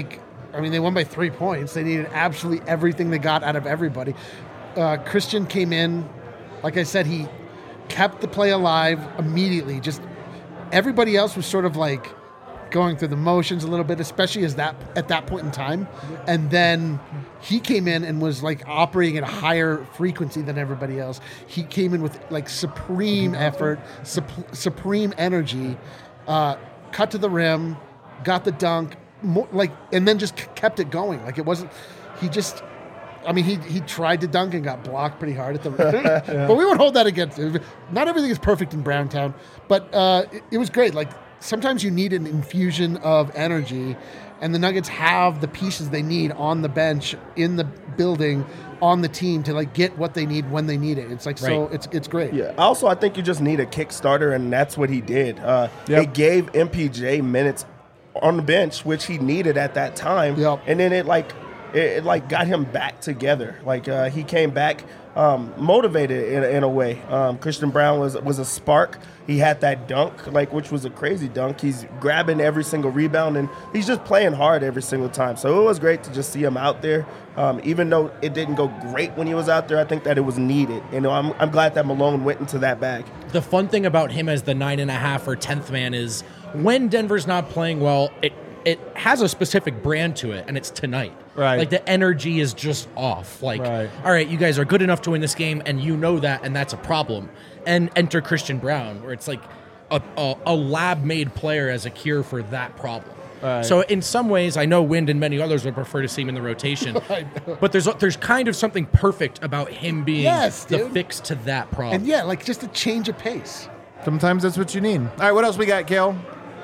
I mean, they won by three points. They needed absolutely everything they got out of everybody. Uh, Christian came in, like I said, he kept the play alive immediately. Just everybody else was sort of like going through the motions a little bit, especially as that at that point in time. And then he came in and was like operating at a higher frequency than everybody else. He came in with like supreme effort, sup- supreme energy, uh, cut to the rim, got the dunk, more, like, and then just kept it going. Like it wasn't. He just. I mean, he he tried to dunk and got blocked pretty hard at the rim. yeah. But we won't hold that against him. Not everything is perfect in Browntown, but uh, it, it was great. Like, sometimes you need an infusion of energy, and the Nuggets have the pieces they need on the bench, in the building, on the team to like get what they need when they need it. It's like, right. so it's it's great. Yeah. Also, I think you just need a kickstarter, and that's what he did. Uh, yep. It gave M P J minutes on the bench, which he needed at that time. Yep. And then it like it, it like got him back together. Like uh, he came back um, motivated in, in a way. Um, Christian Braun was was a spark. He had that dunk, like which was a crazy dunk. He's grabbing every single rebound, and he's just playing hard every single time. So it was great to just see him out there. Um, even though it didn't go great when he was out there, I think that it was needed. You know, I'm I'm glad that Malone went into that bag. The fun thing about him as the nine and a half or tenth man is when Denver's not playing well, it it has a specific brand to it, and it's tonight. Right. Like the energy is just off. Like, right. all right, you guys are good enough to win this game, and you know that, and that's a problem. And enter Christian Braun, where it's like a, a, a lab-made player as a cure for that problem. Right. So in some ways, I know Wind and many others would prefer to see him in the rotation, but there's there's kind of something perfect about him being Yes, the dude. fix to that problem. And yeah, like just a change of pace. Sometimes that's what you need. All right, what else we got, Kale?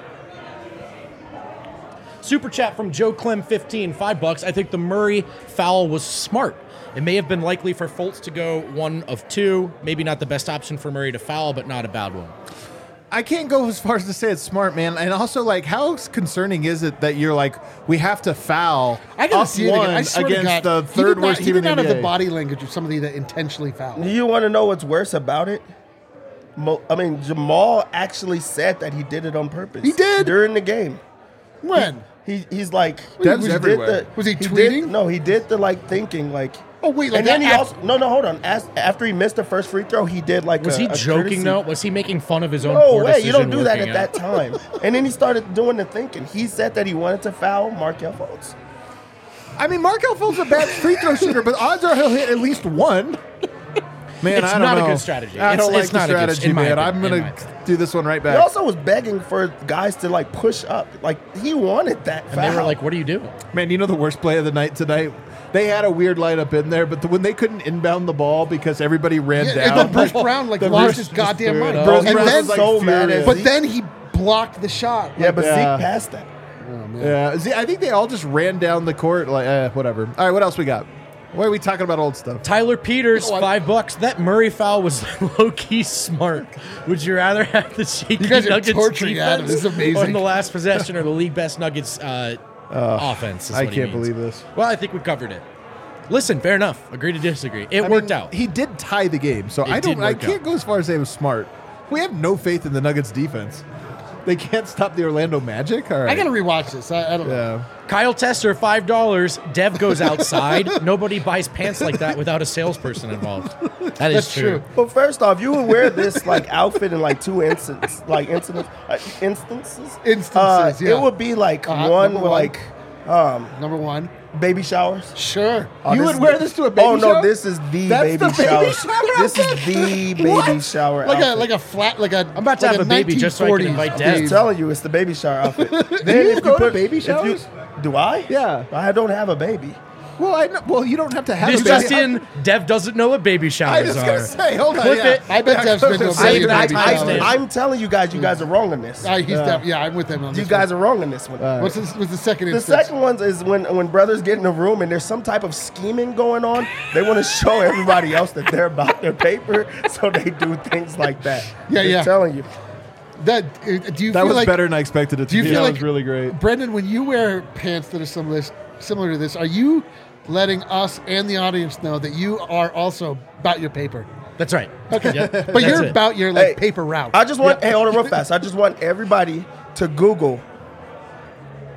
Super chat from Joe Clem fifteen, five bucks. I think the Murray foul was smart. It may have been likely for Fultz to go one of two. Maybe not the best option for Murray to foul, but not a bad one. I can't go as far as to say it's smart, man. And also, like, how concerning is it that you're like, we have to foul I gotta up see it again. I one swear to against God, the he third did not- worst he team did in the not N B A? have the body language of somebody that intentionally fouled. You want to know what's worse about it? Mo- I mean, Jamal actually said that he did it on purpose. He did? during the game. When? He he's like Dev's he did everywhere. the- Was he did- tweeting? no, he did the like thinking like. Oh, wait, like and then that he af- also no no hold on. As, after he missed the first free throw, he did like. Was a, he a joking, courtesy. though? Was he making fun of his own No poor way, you don't decision do that working at out? that time. And then he started doing the thinking. He said that he wanted to foul Markelle Fultz. I mean, Markelle Fultz is a bad free throw shooter, but odds are he'll hit at least one. Man, It's I don't not a know. good strategy. I It's- don't it's like not the a good- strategy, in my man. opinion, I'm in going my to do this one right He back. also was begging for guys to like push up. Like he wanted that And foul. they were like, what are you doing? Man, you know the worst play of the night tonight? They had a weird lineup in there, but the, when they couldn't inbound the ball because everybody ran Yeah, down. and then Bruce Brown like the lost Bruce his just goddamn threw it mind. up. Bruce And Brown then, was like so mad furious. at but Zeke. then he blocked the shot. yeah, but Yeah. Zeke passed that. Oh, man. Yeah, see, I think they all just ran down the court like, eh, whatever. All right, what else we got? Why are we talking about old stuff? Tyler Peters, Oh, I- five bucks. That Murray foul was low-key smart. Would you rather have the shaky You guys are Nuggets torturing Adam. defense This is amazing. on the last possession or the league best Nuggets uh, offense? is I what he can't means. believe this. Well, I think we covered it. Listen, fair enough. Agree to disagree. It I worked mean, out. He did tie the game, so It I don't. did I work can't out. go as far as say it was smart. We have no faith in the Nuggets defense. They can't stop the Orlando Magic. All right. I got to rewatch this. I, I don't know. Yeah. Kyle Tester, five dollars. Dev goes outside. Nobody buys pants like that without a salesperson involved. That is That's true. true. Well, first off, you would wear this like outfit in like two instances, like incidents, uh, instances. Instances, Uh, yeah. It would be like Uh-huh, one number with one. like um, Number one. baby showers. Sure. Oh, You this would is wear the- this to a baby Oh no, shower? this is the That's baby the baby shower. shower This is outfit? the baby What? shower Like a outfit. like a flat like a. I'm about to like have a baby just so I can nineteen forties invite Dev. I'm baby. telling you, it's the baby shower outfit. then you if go to put- baby if you- showers? do I? Yeah. I don't have a baby. Well, I know, well, you don't have to have This a baby. just in, Dev doesn't know what baby I showers was are. gonna say, hold on. Clip yeah. it. I bet Dev's been to a Save baby that baby time. shower. I- I'm telling you guys, you guys are wrong on this. Uh, he's def- yeah, I'm with him on You this. guys are wrong on this one. Uh, What's, this, what's the second The instance? second one is when when brothers get in a room and there's some type of scheming going on. They want to show everybody else that they're about their paper, so they do things like that. Yeah, Just yeah. telling you. That uh, do you That feel was like better than I expected it to do you be. feel That like was really great. Brendan, when you wear pants that are similar similar to this, are you letting us and the audience know that you are also about your paper? That's right. Okay, Yep, but that's you're it. about your like Hey, paper route. I just want hey, hold on real fast. I just want everybody to Google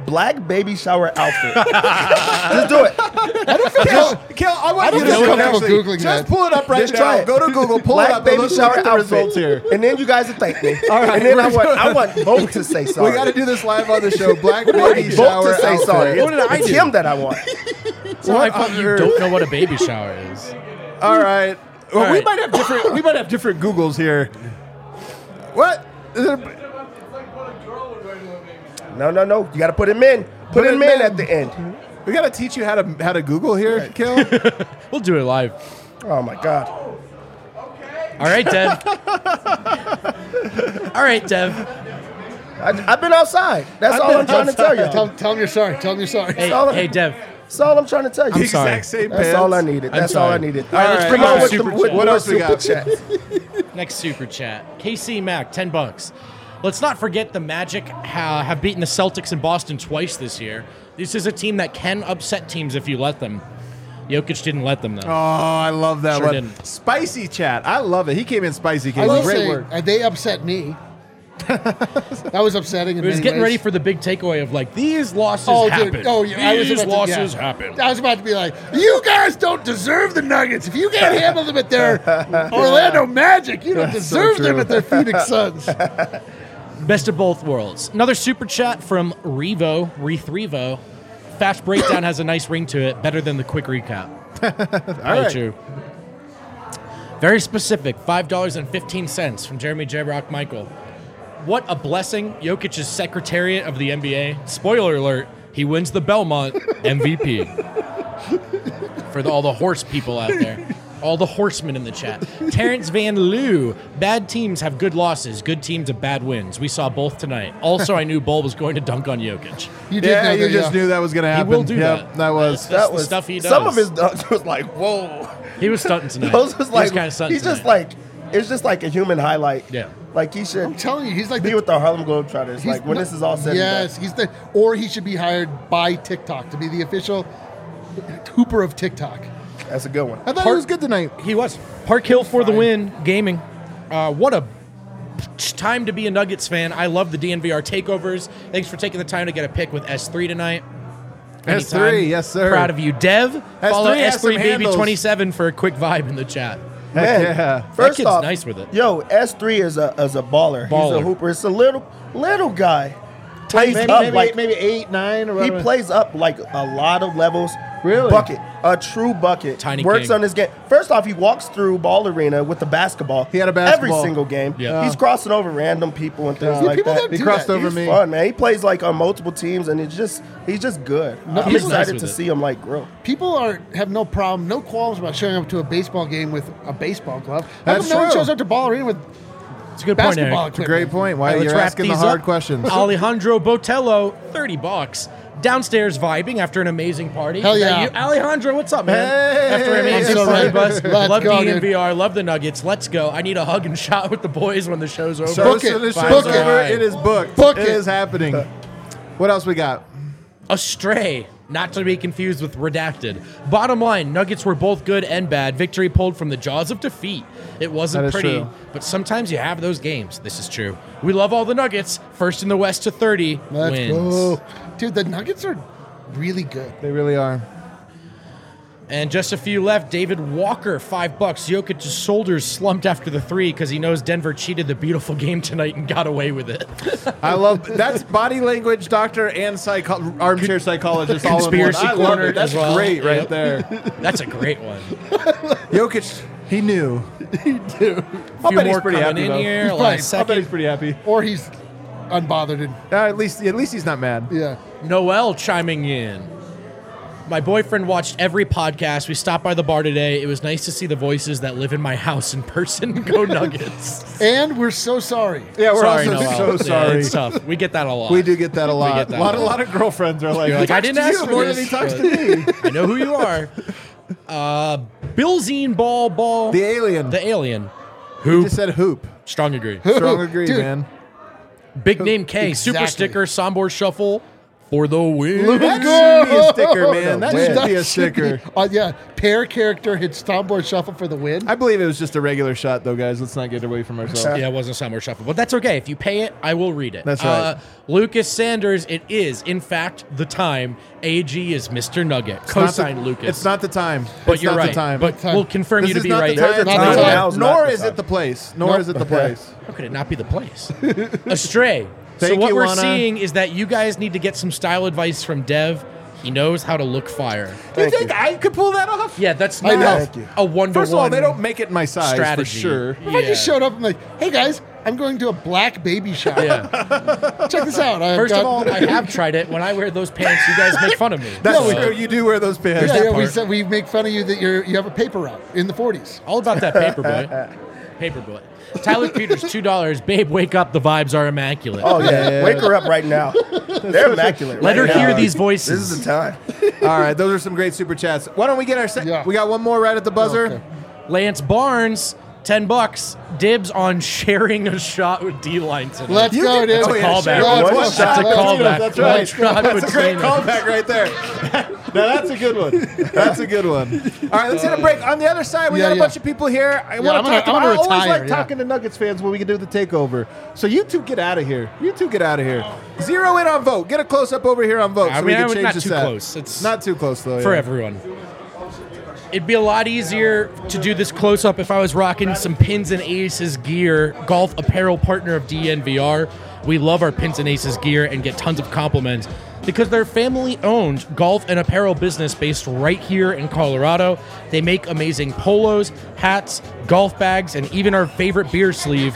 black baby shower outfit. Just do it. Kill, kill, I want I you don't to feel do it comfortable actually. Googling Just that. pull it up right Just now. try it. Go to Google, pull Black it up, baby and let's shower look at the outfit. results here. And then you guys will thank me. All right, and then I we're want, I doing- want both to say sorry. We got to do this live on the show. Black Both baby shower to say outfit. sorry. What did I It's do? him that I want. So I What thought on you earth? don't know what a baby shower is. All right. Well, All we right. might have different. We might have different Googles here. What? Is it- No, no, no. You got to put him in. Put, Put him him in in. at the end. We got to teach you how to how to Google here, Kill. We'll do it live. Oh, my God. All right, Dev. All right, Dev. I, I've been outside. That's all I'm trying to tell you. Tell, tell him you're sorry. Tell him you're sorry. Hey, all- hey, Dev. That's all I'm trying to tell you. I'm sorry. Exact same That's pants. all I needed. I'm That's all I sorry. needed. All right, let's Come bring on on with super the, chat. with What more else we super got? chat. Next super chat. K C Mac, ten bucks. Let's not forget the Magic ha- have beaten the Celtics in Boston twice this year. This is a team that can upset teams if you let them. Jokic didn't let them, though. Oh, I love that Sure one. didn't. Spicy chat. I love it. He came in spicy. I Casey. will Great say, work. uh, they upset me. That was upsetting. In He was many getting ways. ready for the big takeaway of, like, these losses Oh, happen. dude. Oh, yeah. I was These about to- losses yeah. happen. I was about to be like, you guys don't deserve the Nuggets. If you can't handle them at their Orlando Magic, you don't That's so deserve them true. at their Phoenix Suns. Best of both worlds. Another super chat from Revo, Rethrevo. Fast breakdown has a nice ring to it, better than the quick recap. Very right. true. Very specific, five dollars and fifteen cents from Jeremy J. Rock Michael. What a blessing, Jokic's Secretariat of the N B A. Spoiler alert, he wins the Belmont M V P. For the, all the horse people out there. All the horsemen in the chat. Terrence Van Loo. Bad teams have good losses. Good teams have bad wins. We saw both tonight. Also, I knew Bull was going to dunk on Jokic. You did Yeah, know you that, just yeah. knew that was going to happen. will do yep, that. that was. That's That the was stuff he does. Some of his dunks was like, whoa. He was stunting tonight. Those was he like, was kind of stunting he's just tonight. like, it's just like a human highlight. Yeah. Like he should I'm telling you, he's like be the, with the Harlem Globetrotters. he's Like when not- this is all said Yes, and he's the, or he should be hired by TikTok to be the official hooper of TikTok. done. That's a good one. I thought Part- it was good tonight. He was. Park Hill for the win. Gaming. Uh, what a time to be a Nuggets fan. I love the D N V R takeovers. Thanks for taking the time to get a pick with S three tonight. S three, Anytime. yes, sir. Proud of you. Dev, follow has S three some Baby handles. twenty-seven for a quick vibe in the chat. Heck Man, yeah. First kid's off, nice with it. Yo, S three is a is a baller. He's Baller. a hooper. It's a little little guy. Plays Maybe, up maybe, like maybe eight, nine, or he whatever. plays up like a lot of levels. Really? Bucket. A true bucket. Tiny Works king. on his game. First off, he walks through ball arena with the basketball. He had a basketball. Every single game. Yeah. He's crossing over random people and things Yeah. like People that. don't He do crossed that. over He's me. fun, man. He plays like on multiple teams, and it's just he's just good. I'm he's nice excited with to it. see him like grow. People are have no problem, no qualms about showing up to a baseball game with a baseball glove. How That's come no one true. shows up to Ball Arena with It's a good point, basketball Eric. equipment? Great point. Why All right, you're let's wrap asking the these hard up. questions. Alejandro Botello, thirty bucks. Downstairs vibing after an amazing party. Hell Is that yeah. you? Alejandro, what's up, man? Hey. after an amazing I'm so party ready. bus. Let's Love go, D N dude. V R. Love the Nuggets. Let's go. I need a hug and shot with the boys when the show's over. So Book so it. the Book show's it. over. It is booked. Book It it. is happening. What else we got? Astray, not to be confused with redacted. Bottom line, Nuggets were both good and bad. Victory pulled from the jaws of defeat. It wasn't That is pretty, true. but sometimes you have those games. This is true. We love all the Nuggets. First in the West to thirty Let's wins. go. Dude, the Nuggets are really good. They really are. And just a few left. David Walker, five bucks. Jokic's shoulders slumped after the three because he knows Denver cheated the beautiful game tonight and got away with it. I love that's body language doctor and psycho- armchair psychologist all Conspiracy in one. I love corner it. That's as well. great right Yep. there. That's a great one. Jokic, he knew. He do. I'll few bet he's pretty pretty coming happy in though. here. He's Last probably- I bet second. he's pretty happy. Or he's unbothered and Uh, at least, at least he's not mad. yeah. Noel chiming in. My boyfriend watched every podcast. We stopped by the bar today. It was nice to see the voices that live in my house in person. Go Nuggets. And we're so sorry. Yeah, we're sorry, also Noel. so Yeah, sorry. it's tough. We get that a lot. We do get that a lot. get that a lot, a a lot. lot of girlfriends are like, You're he like, I talks didn't to ask you for more this, than he talks but- to me. I know who you are. Uh, Billzine Ball Ball. The alien. The alien. He Who? just said hoop. Strong agree. Strong agree, Dude. man. Big name K. Super Exactly. sticker. Sombor Shuffle. for the win. Let's That go! should be a sticker, man. That Win. should be a That should sticker. be- uh, yeah, pair character hits Tomboy Shuffle for the win. I believe it was just a regular shot, though, guys. Let's not get away from ourselves. Yeah, it wasn't Summer Shuffle, but that's okay. If you pay it, I will read it. That's right. Uh, Lucas Sanders, it is, in fact, the time. A G is Mister Nugget. It's not the- Cosine Lucas. It's not the time. but It's you're not right. the time. But Time. we'll confirm This you to is be not right. the time. There's a Nor- time. Now's not Nor the is time. it the place. Nor Nope. is it the place. How could it not be the place? Astray. so Thank what you, we're Lana. seeing is that you guys need to get some style advice from Dev. He knows how to look fire. You Thank think you. I could pull that off? Yeah, that's I not know. Thank you. a one to one. First of all, they don't make it my size strategy. for sure. If I just showed up and like, hey guys, I'm going to a black baby shower. Yeah. Check this out. I've First got, of all, I have tried it. When I wear those pants, you guys make fun of me. That's So, true. You do wear those pants. yeah, yeah, we part. said we make fun of you that you're you have a paper route in the forties. All about that paper boy. Paper boy. Tyler Peters, two dollars. Babe, wake up. The vibes are immaculate. Oh yeah. Yeah, yeah, Wake yeah. her up right now. They're immaculate. Let right her now. hear these voices. This is the time. All right, those are some great super chats. Why don't we get our second? Yeah. We got one more right at the buzzer. Okay. Lance Barnes, ten bucks. Dibs on sharing a shot with D-Line tonight. Let's You go, can- dude. That's a Oh, yeah, callback. sure. Let's One go. shot. That's a Let's go. callback. That's One right. shot That's a great between us. callback right there. Now that's a good one. That's a good one. All right, let's hit a break. On the other side, we Yeah, got a yeah. bunch of people here. I Yeah, want I'm to gonna- talk I'm about. gonna I always retire, like yeah. talking to Nuggets fans when we can do the takeover. So you two get out of here. You two get out of here. Zero in on vote. Get a close up over here on vote. I so mean, we I can would- change not the too set. close. It's Not too close though. for yeah. everyone. It'd be a lot easier to do this close up if I was rocking some Pins and Aces gear, golf apparel partner of D N V R. We love our Pins and Aces gear and get tons of compliments because they're family owned golf and apparel business based right here in Colorado. They make amazing polos, hats, golf bags, and even our favorite beer sleeve.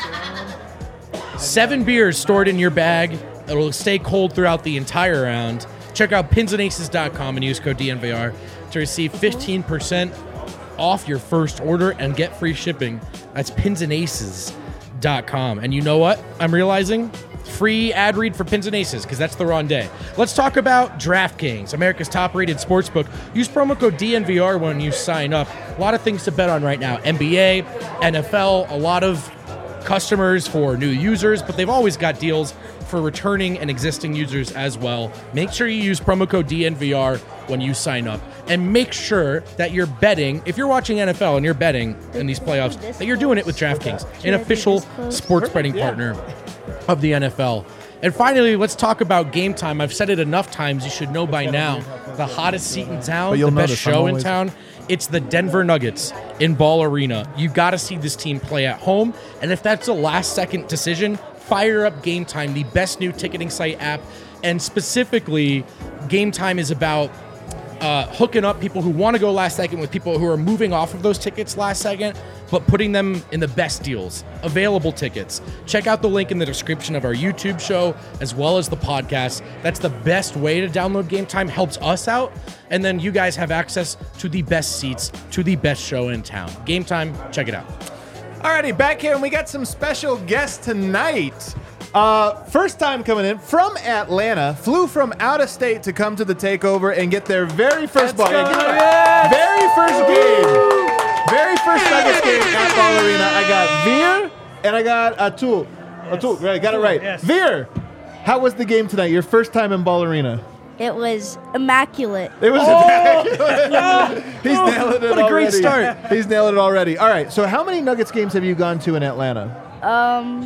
Seven beers stored in your bag. It'll stay cold throughout the entire round. Check out pins and aces dot com and use code D N V R to receive fifteen percent off your first order and get free shipping. That's pins and aces dot com. And you know what? I'm realizing free ad read for Pins and Aces because that's the wrong day. Let's talk about DraftKings, America's top-rated sportsbook. Use promo code D N V R when you sign up. A lot of things to bet on right now. N B A, N F L, a lot of customers for new users, but they've always got deals for returning and existing users as well. Make sure you use promo code D N V R when you sign up. And make sure that you're betting, if you're watching N F L and you're betting in these playoffs, that you're doing it with DraftKings, an official sports betting partner of the N F L. And finally, let's talk about Game Time. I've said it enough times, you should know by now. The hottest seat in town, But you'll the best notice I'm show in always- town. It's the Denver Nuggets in Ball Arena. You got to see this team play at home. And if that's a last second decision, fire up Game Time, the best new ticketing site app. And specifically, Game Time is about uh, hooking up people who want to go last second with people who are moving off of those tickets last second, but putting them in the best deals. Available tickets. Check out the link in the description of our YouTube show as well as the podcast. That's the best way to download Game Time. Helps us out. And then you guys have access to the best seats to the best show in town. Game Time, check it out. Alrighty, back here, and we got some special guests tonight. Uh, first time coming in from Atlanta, flew from out of state to come to the takeover and get their very first ball. Yeah, give it up. Very first game. Very first Nuggets game at Ball Arena. I got Veer and I got Atul. Atul, right, got it right. Yes. Veer, how was the game tonight? Your first time in Ball Arena. It was immaculate. It was immaculate. He's nailing it What a great already. start. He's nailing it already. All right, so how many Nuggets games have you gone to in Atlanta? Um,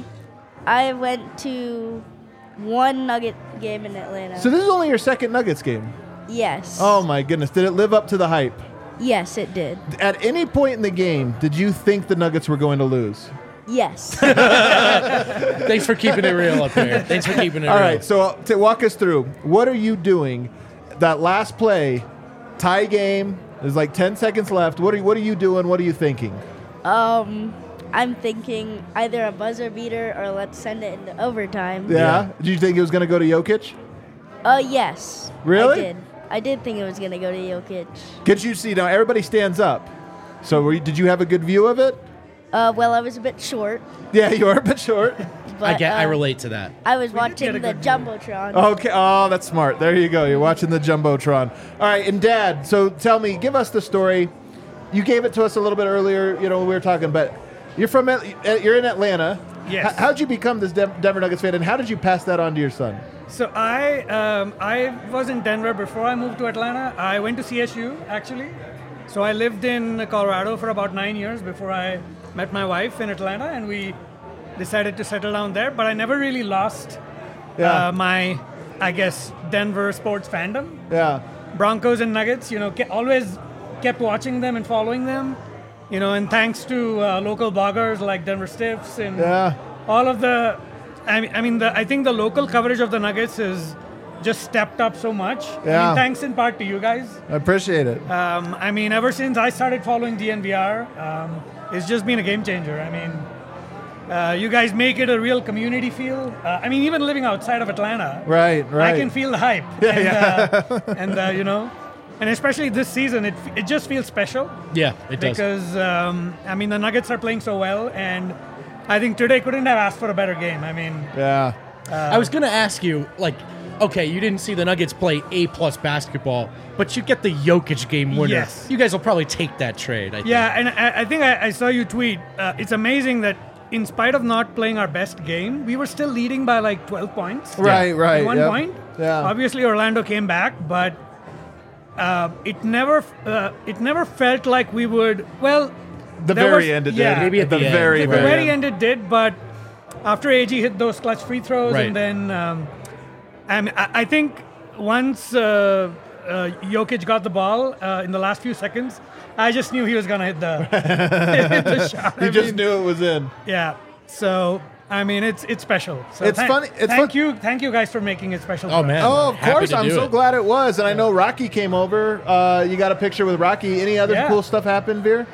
I went to one Nugget game in Atlanta. So this is only your second Nuggets game. yes. Oh my goodness. Did it live up to the hype? Yes, it did. At any point in the game, did you think the Nuggets were going to lose? Yes. Thanks for keeping it real up there. Thanks for keeping it All real. right, so uh, to walk us through, what are you doing? That last play, tie game, there's like ten seconds left. What are you, what are you doing? What are you thinking? um, I'm thinking either a buzzer beater or let's send it into overtime. Yeah? Did you think it was going to go to Jokic? Uh, yes. Really? I did. I did think it was gonna go to Jokic. Could you see, now everybody stands up. So were you, did you have a good view of it? Uh, well, I was a bit short, Yeah, you are a bit short. but I get. I uh, relate to that. I was did watching get a the good view. jumbotron. Okay. Oh, that's smart. There you go. You're watching the Jumbotron. All right. And Dad, so tell me, give us the story. You gave it to us a little bit earlier, you know, when we were talking, but you're from, At- you're in Atlanta. Yes. H- how'd you become this Dem- Denver Nuggets fan, and how did you pass that on to your son? So I um, I was in Denver before I moved to Atlanta. I went to C S U actually. So I lived in Colorado for about nine years before I met my wife in Atlanta, and we decided to settle down there. But I never really lost Yeah. uh, my, I guess, Denver sports fandom. Yeah. Broncos and Nuggets, you know, ke- always kept watching them and following them. You know, and thanks to uh, local bloggers like Denver Stiffs and Yeah. all of the, I mean, I mean, the, I think the local coverage of the Nuggets is just stepped up so much. I Yeah. mean, thanks in part to you guys. I appreciate it. Um, I mean, ever since I started following D N V R, um, it's just been a game changer. I mean, uh, you guys make it a real community feel. Uh, I mean, even living outside of Atlanta, Right, right. I can feel the hype. Yeah, and, yeah. Uh, and uh, you know, and especially this season, it it just feels special. Yeah, it does. Because um, I mean, the Nuggets are playing so well, and I think today couldn't have asked for a better game. I mean, Yeah. I was gonna ask you, like, okay, you didn't see the Nuggets play A plus basketball, but you get the Jokic game winner. Yes. You guys will probably take that trade. I think. yeah, and I, I think I, I saw you tweet. Uh, it's amazing that in spite of not playing our best game, we were still leading by like twelve points. Right, right. At one yep. point. Yeah. Obviously, Orlando came back, but uh, it never uh, it never felt like we would. Well, The there very was- end it yeah. did. Maybe at the, the end. very, At the very, very end it did, but after A G hit those clutch free throws, Right. and then um, I, mean, I, I think once uh, uh, Jokic got the ball uh, in the last few seconds, I just knew he was gonna hit the, hit the shot. You I just mean, knew it was in. yeah. So I mean, it's it's special. So It's thank- funny- it's thank fun- you, thank you guys for making it special. Oh for man. us. Oh, of Happy course. to I'm do so it. glad it was. And I know Rocky came over. Uh, you got a picture with Rocky. Any other Yeah. cool stuff happen, Veer?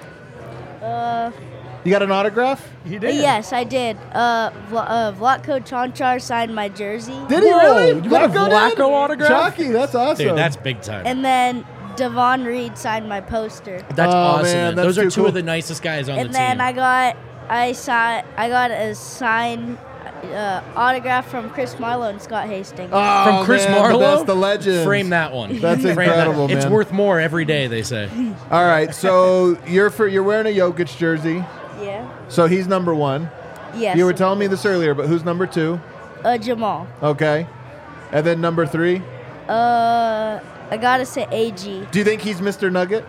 Uh, You got an autograph? He did. yes, I did. Uh, Vla- uh, Vlatko Chanchar signed my jersey, Did he Whoa, really? you got a Vlatko did? Vlatko autograph? Chalky, that's awesome. Dude, that's big time. and then Devon Reed signed my poster. That's Oh, awesome. man, man. that's Those are too two cool. of the nicest guys on And the then team. I got I saw I got a signed uh, autograph from Chris Marlowe and Scott Hastings. Oh, From Chris man, Marlowe? That's the legend. Frame that one. That's Frame that. incredible, It's man. worth more every day, they say. All right, so you're for you're wearing a Jokic jersey, Yeah. so he's number one. Yes. You were telling me this earlier, but who's number two? uh, Jamal. Okay, and then number three. Uh, I gotta say A G. Do you think he's Mister Nugget?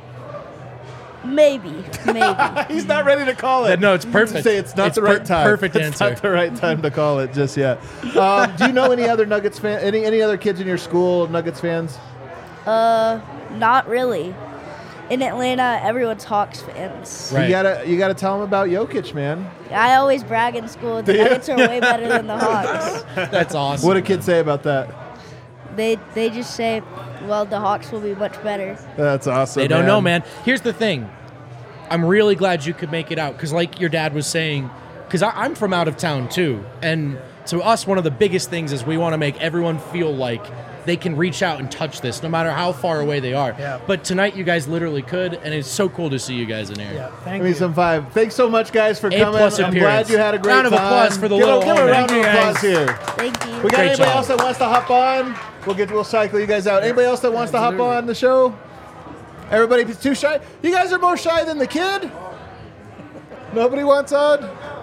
Maybe. Maybe. He's not ready to call it. No, it's perfect. Say it's not It's the per- right time. perfect it's answer. not the right time to call it just yet. Um, do you know any other Nuggets fan? Any any other kids in your school Nuggets fans? uh, not really. In Atlanta, everyone's Hawks fans. Right. You gotta you gotta tell them about Jokic, man. I always brag in school. The Do you? Nuggets are way better than the Hawks. That's awesome. What do kids say about that? They they just say, well, the Hawks will be much better. That's awesome. They don't know, man. Here's the thing. I'm really glad you could make it out because, like your dad was saying, because I'm from out of town too, and to us, one of the biggest things is we want to make everyone feel like they can reach out and touch this, no matter how far away they are. Yeah. But tonight, you guys literally could, and it's so cool to see you guys in here. Yeah. Thank Give me you. some five. Thanks so much, guys, for A coming. plus I'm appearance. glad you had a great Round of time. applause for the give little a, give a homie. round of Thank you, applause guys. here. Thank you. We got Great anybody job. else that wants to hop on? We'll get we'll cycle you guys out. Anybody else that wants to hop on the show? Everybody too shy? You guys are more shy than the kid? Nobody wants on?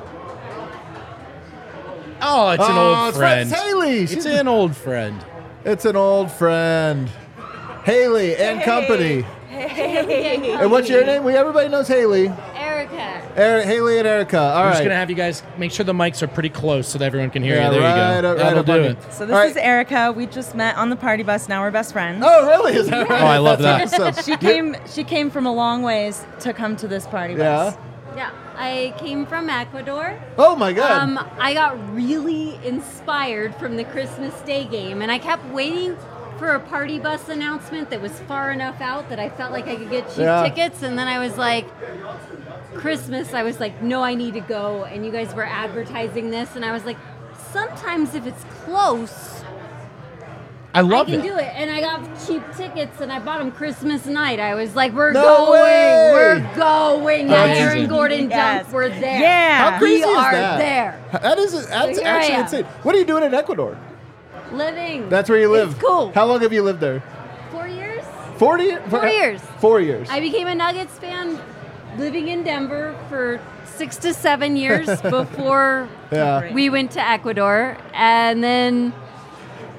Oh, it's an Oh, old it's friend. It's Haley. It's She's- an old friend. It's an old friend. Haley and company. Hey. And what's your name? We everybody knows Haley. Erica. Er- Haley and Erica. All I'm just right. gonna have you guys make sure the mics are pretty close so that everyone can hear Yeah, you. There right you go. up- right That'll up do on it. me. So this All is right. Erica. We just met on the party bus. Now we're best friends. Oh, really? Is that right? Oh, I love that. That's awesome. She came. She came from a long ways to come to this party Yeah. bus. Yeah, I came from Ecuador. Oh my God. Um, I got really inspired from the Christmas Day game, and I kept waiting for a party bus announcement that was far enough out that I felt like I could get cheap Yeah. tickets, and then I was like, Christmas, I was like, no, I need to go, and you guys were advertising this, and I was like, sometimes if it's close, I I love can it. do it. And I got cheap tickets, and I bought them Christmas night. I was like, we're No going, way! we're going. Amazing. Aaron Gordon Yes. Dunk, we're there. Yeah. How crazy we is are that? there. That is that's here I actually am. insane. What are you doing in Ecuador? Living. That's where you live. It's cool. How long have you lived there? Four years. Forty. Four years. Four years. I became a Nuggets fan living in Denver for six to seven years before Yeah. we went to Ecuador. And then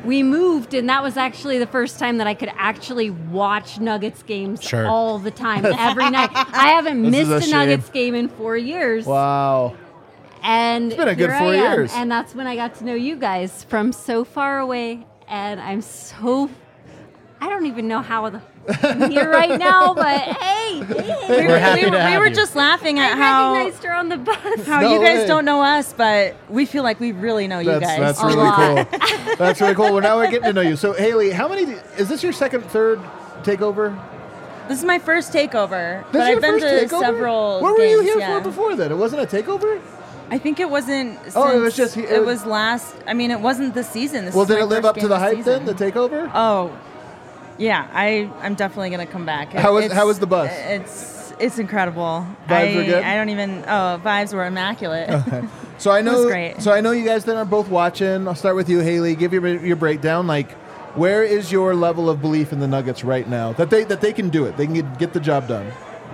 we moved, and that was actually the first time that I could actually watch Nuggets games Sure. all the time, every night. I haven't This is missed a a, Nuggets shame. game in four years. Wow. And It's been a good here four I am. years. And that's when I got to know you guys from so far away. And I'm so, I don't even know how the, I'm here right now, but hey, hey, hey. We're happy we, to we have were you. just laughing I at how recognized her on the bus. how No you guys way. don't know us, but we feel like we really know you That's, guys. that's A really lot. cool. That's really cool. Well, now we're getting to know you. So, Haley, how many, is this your second, third takeover? This is my first takeover, This but is your I've been first to takeover? several. What were you games, here yeah. for before then? It wasn't a takeover? I think it wasn't. Oh, it was since- just- it It was- was last. I mean, it wasn't this season. This Well, is did my it live first up to game the this hype season. then, the takeover? Oh, yeah. I I'm definitely gonna come back. How was- It's- how was the bus? It's it's incredible. Vibes I, were good? I don't even. Oh, vibes were immaculate. So I know, was great. so I know you guys then are both watching. I'll start with you, Haley. Give your your breakdown. Like, where is your level of belief in the Nuggets right now that they that they can do it? They can get, get the job done.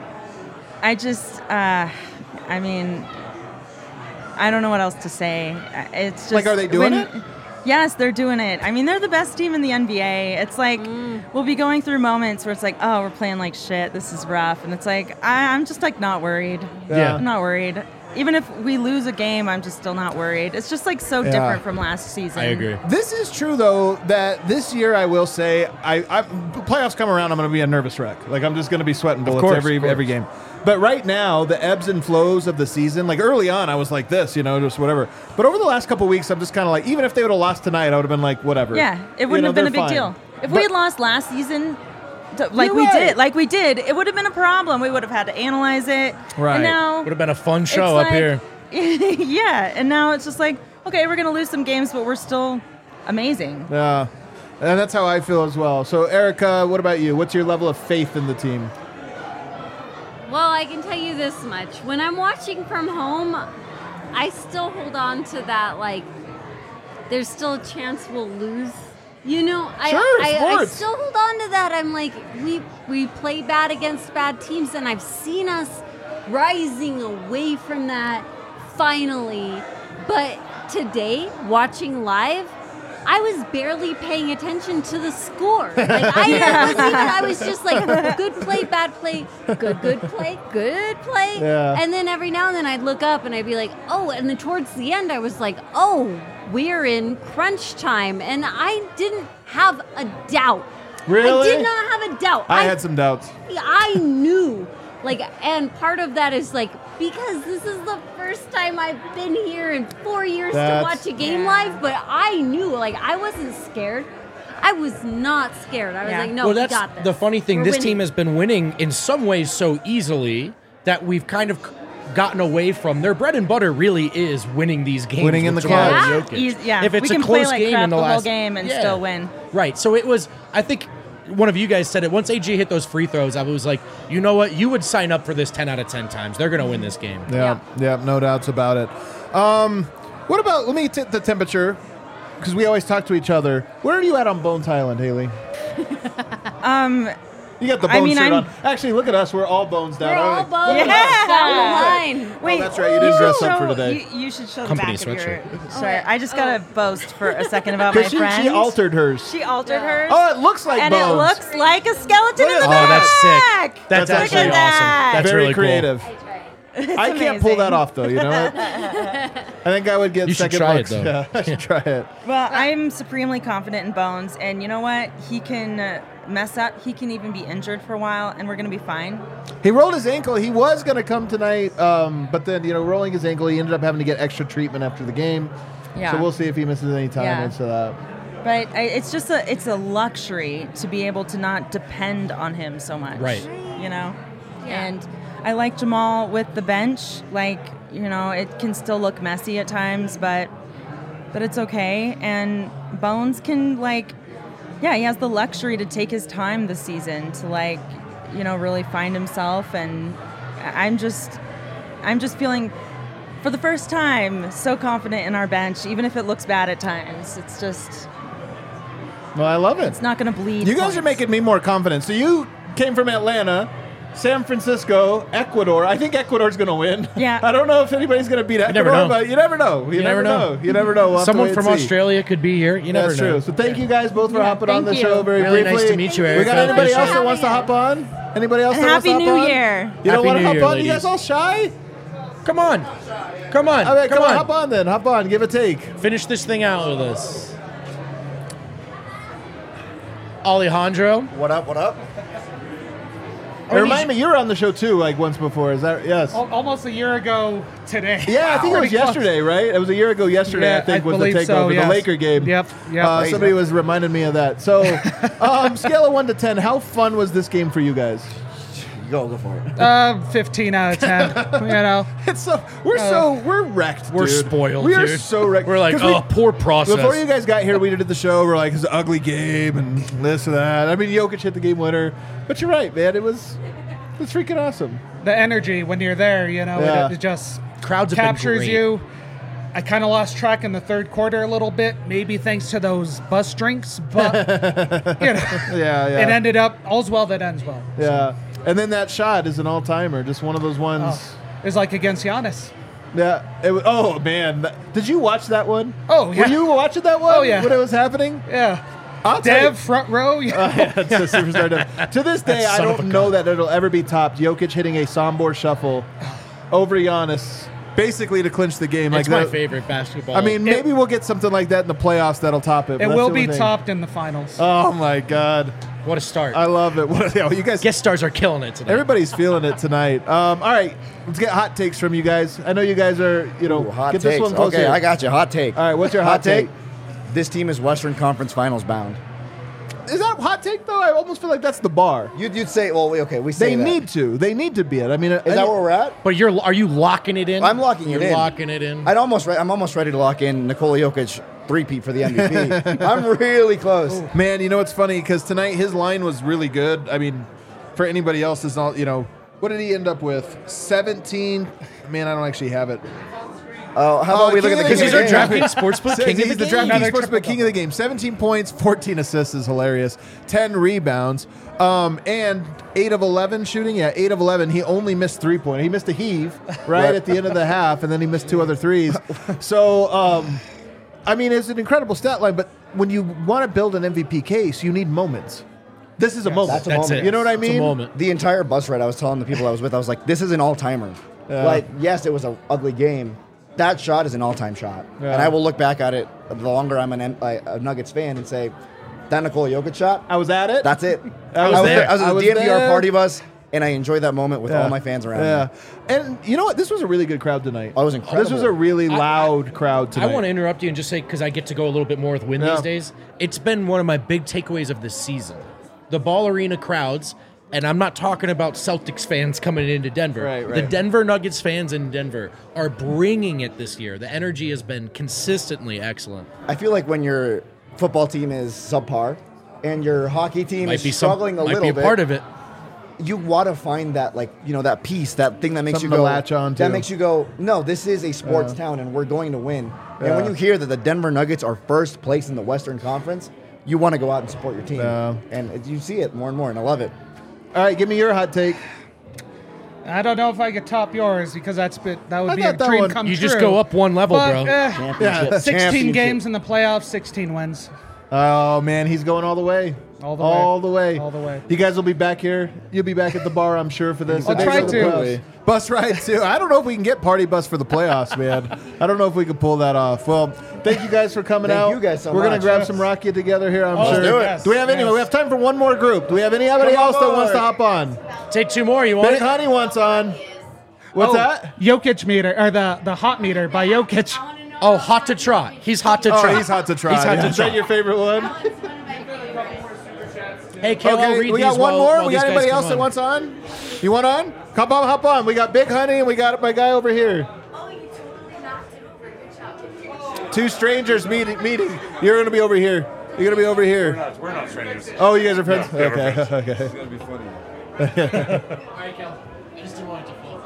I just. Uh, I mean, I don't know what else to say. It's just Like, are they doing when- it? Yes, they're doing it. I mean, they're the best team in the N B A. It's like we'll be going through moments where it's like, oh, we're playing like shit. This is rough, and it's like I, I'm just like not worried. Yeah. I'm not worried. Even if we lose a game, I'm just still not worried. It's just like so Yeah. different from last season. I agree. This is true though that this year I will say I, I playoffs come around I'm going to be a nervous wreck. Like I'm just going to be sweating bullets course, every of course. every game. But right now the ebbs and flows of the season, like early on I was like this, you know, just whatever. But over the last couple of weeks I'm just kind of like even if they would have lost tonight I would have been like whatever. Yeah, it You wouldn't know, have been a they're big fine. deal. If But- we had lost last season, t- like You're we right. did, like we did, it would have been a problem. We would have had to analyze it. Right. And now Would have been a fun it's show up like- here. yeah, and now it's just like, okay, we're gonna lose some games, but we're still amazing. Yeah. And that's how I feel as well. So Erica, what about you? What's your level of faith in the team? Well, I can tell you this much. When I'm watching from home, I still hold on to that, like, there's still a chance we'll lose. You know, I, Sure, I, I sports. still hold on to that. I'm like, we we play bad against bad teams, and I've seen us rising away from that finally. But today, watching live, I was barely paying attention to the score. Like I wasn't even, I was just like, good play, bad play, good, good play, good play. Yeah. And then every now and then I'd look up and I'd be like, oh, and then towards the end I was like, oh, we're in crunch time. And I didn't have a doubt. Really? I did not have a doubt. I had some doubts. I knew. Like, and part of that is like, because this is the first time I've been here in four years That's- to watch a game live, but I knew, like, I wasn't scared. I was not scared. I was Yeah. like, no, well, we that's got this. the funny thing. We're this winning. team has been winning in some ways so easily that we've kind of gotten away from their bread and butter. Really is winning these games, Winning in with the Jamal clutch. and Yeah. Jokic. Eas- yeah, If it's we a can close play like game crap in the, the whole last game and Yeah. still win. Right. So it was. I think one of you guys said it. Once A G hit those free throws, I was like, you know what? You would sign up for this ten out of ten times. They're going to win this game. Yeah, yeah, no doubts about it. Um, what about, let me take the temperature, because we always talk to each other. Where are you at on Bones Island, Haley? Um, You got the I Bones mean, shirt I'm- on. Actually, look at us. We're all bones down. We're all aren't we? bones Yeah. down the line. wait, that's right, you didn't dress should up for show- today. You, you should show Company the back of your sweatshirt. shirt. I just gotta boast for a second about my Because she, friend. she altered hers. She altered hers. Oh, it looks like and bones. it looks like a skeleton Look in the at back. that. Oh, that's sick. That's, That's actually actually awesome. that. That's very really cool. creative. I can't pull amazing. that off, though. You know what? I think I would get You should second try it, looks. though. Yeah, I should try it. Well, I'm supremely confident in Bones, and you know what? He can uh, mess up. He can even be injured for a while, and we're gonna be fine. He rolled his ankle. He was going to come tonight, um, but then, you know, rolling his ankle, he ended up having to get extra treatment after the game. Yeah. So we'll see if he misses any time Yeah. into that. But I, it's just a it's a luxury to be able to not depend on him so much. Right. You know? Yeah. And I like Jamal with the bench. Like, you know, it can still look messy at times, but but it's okay. And Bones can, like, yeah, he has the luxury to take his time this season to, like, you know, really find himself. And I'm just I'm just feeling for the first time so confident in our bench, even if it looks bad at times. It's just Well, I love it. it's not going to bleed. You guys points. are making me more confident. So you came from Atlanta. San Francisco, Ecuador. I think Ecuador's going to win. Yeah. I don't know if anybody's going to beat Ecuador, never know. but you never know. You, You never, never know. know. You never know. We'll have to Someone wait from and see. Australia could be here. You never That's know. true. So thank you guys both for Yeah, hopping on thank the you. show very Really briefly. nice to meet you, We Erica. got anybody Appreciate else that it. wants to hop on? Anybody else And that wants Happy to hop New on? Year. You don't Happy want to New hop Year, on? You guys ladies. all shy? Come on. Come on. All right, come, come on, on. hop on then. Hop on. Give a take. Finish this thing out with us. Alejandro. What up? What up? Hey, remind me, you were on the show too, like once before. Is that yes? Al- Almost a year ago today. Yeah, I think it was Pretty close. yesterday, right? It was a year ago yesterday, Yeah, I think, I was the believe takeover, so, yes. the Laker game. Yep, yep. Uh, Crazy. somebody was reminding me of that. So, um, scale of one to ten, how fun was this game for you guys? Go, go for it. Uh, fifteen out of ten. You know. It's so we're so we're wrecked. We're dude. spoiled, We are dude. so wrecked. We're like, 'Cause we- oh, poor process. Before you guys got here, we did the show. We're like, it's an ugly game and this and that. I mean, Jokic hit the game winner, but you're right, man. It was it was freaking awesome. The energy when you're there, you know, Yeah. it, it just Crowds have been captures great. you. I kind of lost track in the third quarter a little bit, maybe thanks to those bus drinks, but you know, Yeah, yeah. it ended up all's well that ends well. Yeah. And then that shot is an all timer, just one of those ones. Oh, it was like against Giannis. Yeah. It was, oh man, That- did you watch that one? Oh, yeah. Were you watching that one? Oh, yeah. When it was happening? Yeah, I'll tell you- Dev front row. Yeah. Oh, yeah, it's a superstar Dev. To this day, That I son of don't a know that it'll ever be topped. Jokic hitting a Sombor shuffle over Giannis, basically to clinch the game. It's like my that- favorite basketball. I mean, maybe we'll get something like that in the playoffs that'll top it. but It that's will the be only thing. topped in the finals. Oh my god, what a start. I love it. What, you, know, you guys, Guest stars are killing it today. everybody's feeling it tonight. Um, all right, let's get hot takes from you guys. I know you guys are, you know, Ooh, hot get takes. this one close Okay, here. I got you. Hot take. All right, what's your hot take? This team is Western Conference Finals bound. Is that hot take though? I almost feel like that's the bar. You'd, you'd say, well, we, okay, we say They that. need to. They need to be it. I mean, Is that where we're at? But you're are you locking it in? I'm locking it You're in. locking it in. I'd almost, re- I'm almost ready to lock in Nikola Jokic three-peat for the M V P. I'm really close. Man, you know what's funny? Because tonight his line was really good. I mean, for anybody else, is not. You know, what did he end up with? seventeen. Man, I don't actually have it. Oh, how about Oh, we look king at the of king the of the game. game? DraftKings Sportsbook Says king of he's the the game. DraftKings Another Sportsbook triple king of the game. seventeen points, fourteen assists is hilarious. ten rebounds, um, and eight of eleven shooting. Yeah, eight of eleven. He only missed three point. He missed a heave right, Right. at the end of the half, and then he missed two other threes. So, um, I mean, it's an incredible stat line. But when you want to build an M V P case, you need moments. This is a moment. That's a That's moment. it. You know what I It's mean? a moment. The entire bus ride, I was telling the people I was with, I was like, this is an all-timer. Yeah. Like, yes, it was an ugly game. That shot is an all-time shot. Yeah. And I will look back at it the longer I'm an, M- a a Nuggets fan and say, that Nikola Jokic shot, I was at it. that's it. I was I was, there. I was at I the was D N V R there. party bus, and I enjoyed that moment with Yeah. all my fans around Yeah, me. and you know what? This was a really good crowd tonight. Oh, it was This was incredible. a really I- loud crowd I tonight. want to interrupt you and just say, because I get to go a little bit more with Win Yeah. these days, it's been one of my big takeaways of this season. The Ball Arena crowds, and I'm not talking about Celtics fans coming into Denver. Right, The right. Denver Nuggets fans in Denver are bringing it this year. The energy has been consistently excellent. I feel like when your football team is subpar and your hockey team Might is be some, struggling a might little be a bit, part of it. you want to find that, like, you know, that piece, that thing that makes Something you to go, latch on to. that makes you go, no, this is a sports town and we're going to win. And when Yeah. you hear that the Denver Nuggets are first place in the Western Conference, you want to go out and support your team. Yeah. And it- you see it more and more, and I love it. All right, give me your hot take. I don't know if I could top yours because that's bit, that would I be thought a that dream one- come You true. just go up one level, But, bro. eh, Championship. sixteen Championship. games in the playoffs, sixteen wins. Oh man, he's going all the way. All the all way. the way. All the way. You guys will be back here. You'll be back at the bar, I'm sure, for this. I'll And try maybe to. the bus. Bus ride too. I don't know if we can get party bus for the playoffs, man. I don't know if we can pull that off. Well, thank you guys for coming Thank out. you guys so We're gonna much. grab some Rakia together here, I'm Oh, sure. let's do it. Do we have any? Yes. We have time for one more group. Do we have anybody Come else that aboard. wants to hop on? Take two more. You want Big it? Honey wants on. What's Oh, that? Jokic meter, or the, the hot meter by Jokic. Oh, hot to trot. He's hot to Oh, trot. he's hot to try. He's hot to Is that trot. your favorite one? Hey, Kel, I'll Okay, read we got these one while- more. while We these got guys anybody come else that on. wants on? You want on? Hop on, hop on. We got Big Honey and we got my guy over here. Two strangers meeting. Meeting. You're gonna be over here. You're gonna be over here. We're not, we're not strangers. Oh, you guys are friends. Yeah, yeah, we're okay. friends. Okay. It's gonna be funny. All right, Kel. I just didn't want it to fall.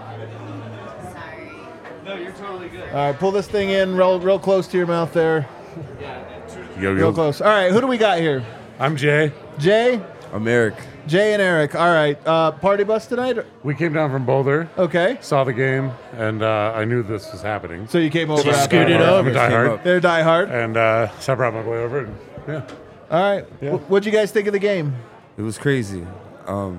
No, you're totally good. All right, pull this thing in real, real close to your mouth there. Yo, Real yo. close. All right, who do we got here? I'm Jay. Jay. I'm Eric. Jay and Eric. All right. Uh, party bus tonight? We came down from Boulder. Okay. Saw the game, and uh, I knew this was happening. So you came over. So you scooted over. I'm a diehard. They're diehard. And uh, so I brought my boy over. And, yeah. All right. Yeah. W- what'd you guys think of the game? It was crazy. Um,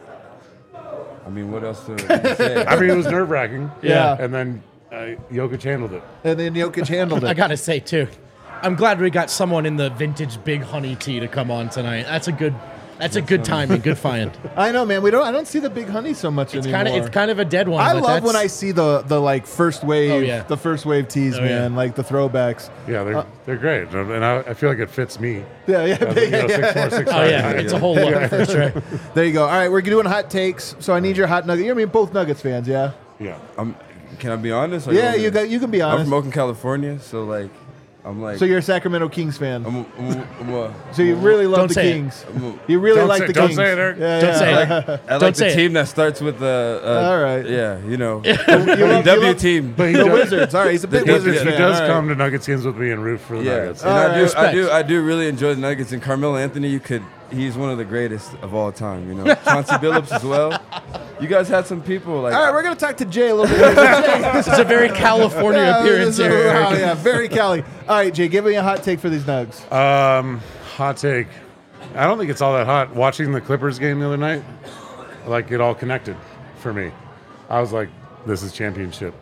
I mean, what else to to say? I mean, it was nerve wracking. Yeah. And then uh, Jokic handled it. And then Jokic handled it. I gotta say too, I'm glad we got someone in the vintage Big Honey tee to come on tonight. That's a good, that's a good timing, good find. I know, man. We don't. I don't see the Big Honey so much It's anymore. kind of, it's kind of a dead one. I but love that's- when I see the the like first wave, Oh, yeah. the first wave tees, Oh, man, yeah. like the throwbacks. Yeah, they're Uh, they're great, and I, I feel like it fits me. Yeah, yeah, As a, you know, yeah, six yeah. four, six Oh five yeah, guy. it's a whole look for sure. There you go. All right, we're doing hot takes. So I need your hot nugget. You're I mean both Nuggets fans, yeah. Yeah. I'm, can I be honest? Or Yeah, want me you to- got. You can be I'm honest. from Oakland, California, so like, I'm like. So you're a Sacramento Kings fan. I'm, a, I'm, a, I'm a, So you really love Don't the say it. Kings. I'm a, You really Don't like say- the don't Kings. say it, Eric. Yeah, Don't yeah. say it. I Don't like say the it. team that starts with the. Uh, All right. Yeah, you know. You love- you W love- team. But he The does, Wizards. All right, he's a big The- Wizards he he fan. does All right. come to Nuggets games with me and root for the Yeah, Nuggets. and All I right. do, I Respect. do, I do really enjoy the Nuggets. And Carmelo Anthony, you could, he's one of the greatest of all time. You know, Chauncey Billups as well. You guys had some people like. All right, we're gonna talk to Jay a little bit. Jay, It's a very California Yeah, appearance this is- here. wow, Eric. yeah, very Cali. All right, Jay, give me a hot take for these Nugs. Um, hot take. I don't think it's all that hot. Watching the Clippers game the other night, like it all connected for me. I was like, this is championship.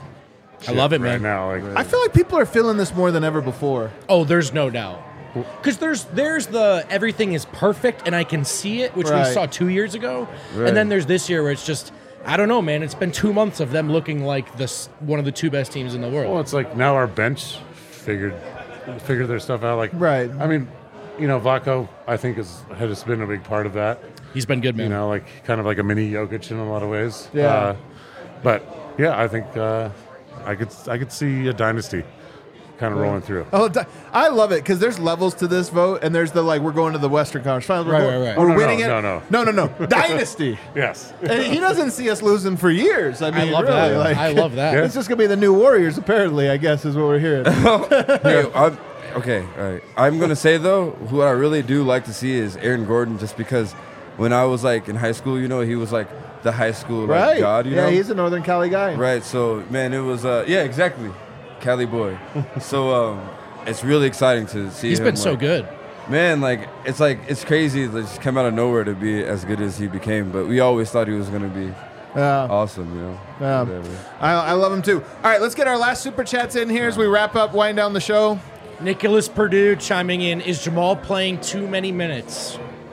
I love it, right man. now. Like, I feel like people are feeling this more than ever before. Oh, there's no doubt. Because there's there's the everything is perfect and I can see it, which Right. we saw two years ago, Right. and then there's this year where it's just I don't know, man. It's been two months of them looking like this one of the two best teams in the world. well, it's like now our bench figured figured their stuff out. Like, Right. I mean, you know, Vlatko, I think is has been a big part of that. He's been good, man. You know, like kind of like a mini Jokic in a lot of ways. Yeah. Uh, but yeah, I think uh, I could I could see a dynasty kind of rolling through. Oh, di- I love it because there's levels to this vote, and there's the like we're going to the Western Conference Finals. We're, Right, going- right, right. we're Oh, no, winning no, it. no, no, no, no. Dynasty. Yes. And he doesn't see us losing for years. I mean, I love really, that. like- I love that. It's just gonna be the new Warriors, apparently. I guess is what we're hearing. Hey, I'm, okay, all right. I'm gonna say though, who I really do like to see is Aaron Gordon, just because when I was like in high school, you know, he was like the high school like, right? god, you yeah, know. he's a Northern Cali guy. Right. So man, it was uh, yeah, exactly, Cali boy. so um, it's really exciting to see. He's him, been so like- good. Man, like it's like it's crazy to just come out of nowhere to be as good as he became. But we always thought he was gonna be Yeah. awesome, you know. Yeah. Whatever. I, I love him too. All right, let's get our last super chats in here as we wrap up, wind down the show. Nicholas Purdue chiming in: is Jamal playing too many minutes?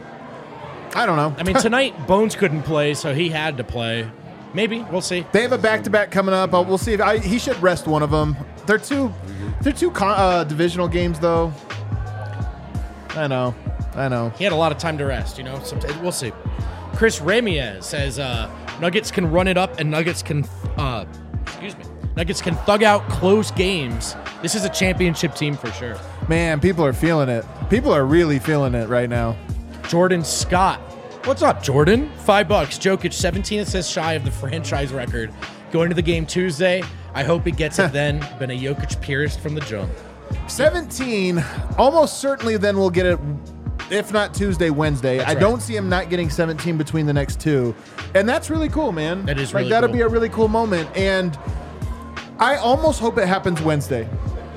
I don't know. I mean, tonight Bones couldn't play, so he had to play. Maybe we'll see. They have a back-to-back coming up. Uh, We'll see if I, he should rest one of them. They're two, they're two con, uh, divisional games though. I know, I know. He had a lot of time to rest, you know. So we'll see. Chris Ramirez says uh, Nuggets can run it up and Nuggets can, uh, excuse me, Nuggets can thug out close games. This is a championship team for sure. Man, people are feeling it. People are really feeling it right now. Jordan Scott. What's up, Jordan? Five bucks. Jokic, seventeen assists shy of the franchise record. Going to the game Tuesday. I hope he gets it then. Been a Jokic purist from the jump. seventeen, almost certainly then we'll get it, if not Tuesday, Wednesday. That's I right. don't see him not getting seventeen between the next two. And that's really cool, man. That is like really that'll cool. be a really cool moment. And I almost hope it happens Wednesday.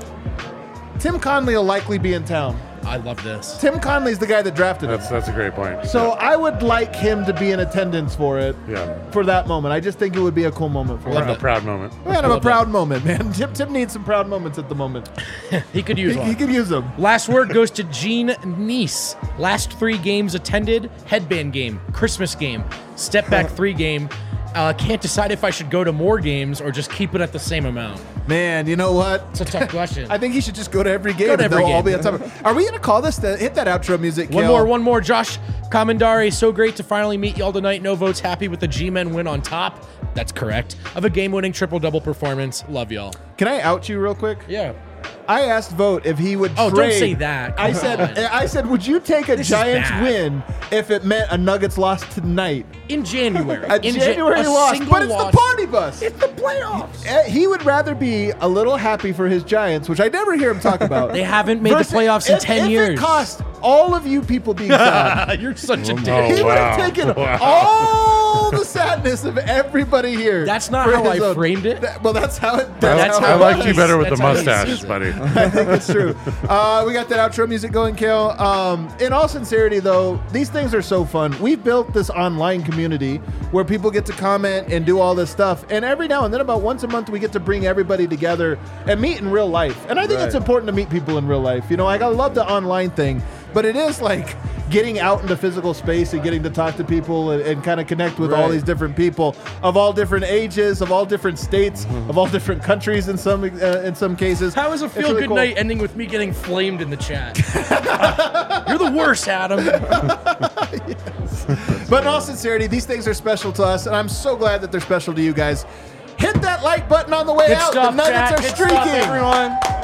Tim Conley will likely be in town. I love this. Tim Conley's the guy that drafted him. That's that's a great point. So I would like him to be in attendance for it, Yeah. for that moment. I just think it would be a cool moment for Or him. a proud moment. Man, I'm a Love proud moment, man. Tim, Tim needs some proud moments at the moment. He could use He, one. he could use them. Last word goes to Gene Neese. Last three games attended: headband game, Christmas game, step back three game. Uh, can't decide if I should go to more games or just keep it at the same amount. Man, you know what? It's a tough question. I think he should just go to every game. Go to and every they'll all game. be on top. Are we gonna call this? The, hit that outro music. One Kale. more, one more. Josh Comandari, so great to finally meet y'all tonight. No votes, happy with the G-Men win on top. That's correct. Of a game-winning triple-double performance. Love y'all. Can I out you real quick? Yeah. I asked Vote if he would Oh, don't trade. say that. I Come said, on. I said, would you take a This is Giants bad. win if it meant a Nuggets loss tonight? In January. A In Ja- January a loss, single but it's loss. the party bus. It's the playoffs. Eh, He would rather be a little happy for his Giants, which I never hear him talk about. They haven't made the versus- playoffs in if- ten if years. It cost all of you people being sad. You're such a Oh, dick. He would have wow. taken Wow. all the sadness of everybody here. That's not for how his I own- framed it. That- well, that's how it. I, That's how I it liked you was. better with the That's how he mustache, sees it. buddy. I think it's true. Uh, we got that outro music going, Kale. Um, in all sincerity, though, these things are so fun. We've built this online community where people get to comment and do all this stuff. And every now and then, about once a month, we get to bring everybody together and meet in real life. And I think it's Right. important to meet people in real life. You know, like, I love the online thing, but it is like getting out into physical space and getting to talk to people and, and kind of connect with all Right. these different people of all different ages, of all different states, of all different countries in some uh, in some cases. How is a It's feel really good cool. night ending with me getting flamed in the chat? You're the worst, Adam. But in all sincerity, these things are special to us, and I'm so glad that they're special to you guys. Hit that like button on the way Good out. stuff, the Nuggets chat. are Good streaking. stuff, everyone.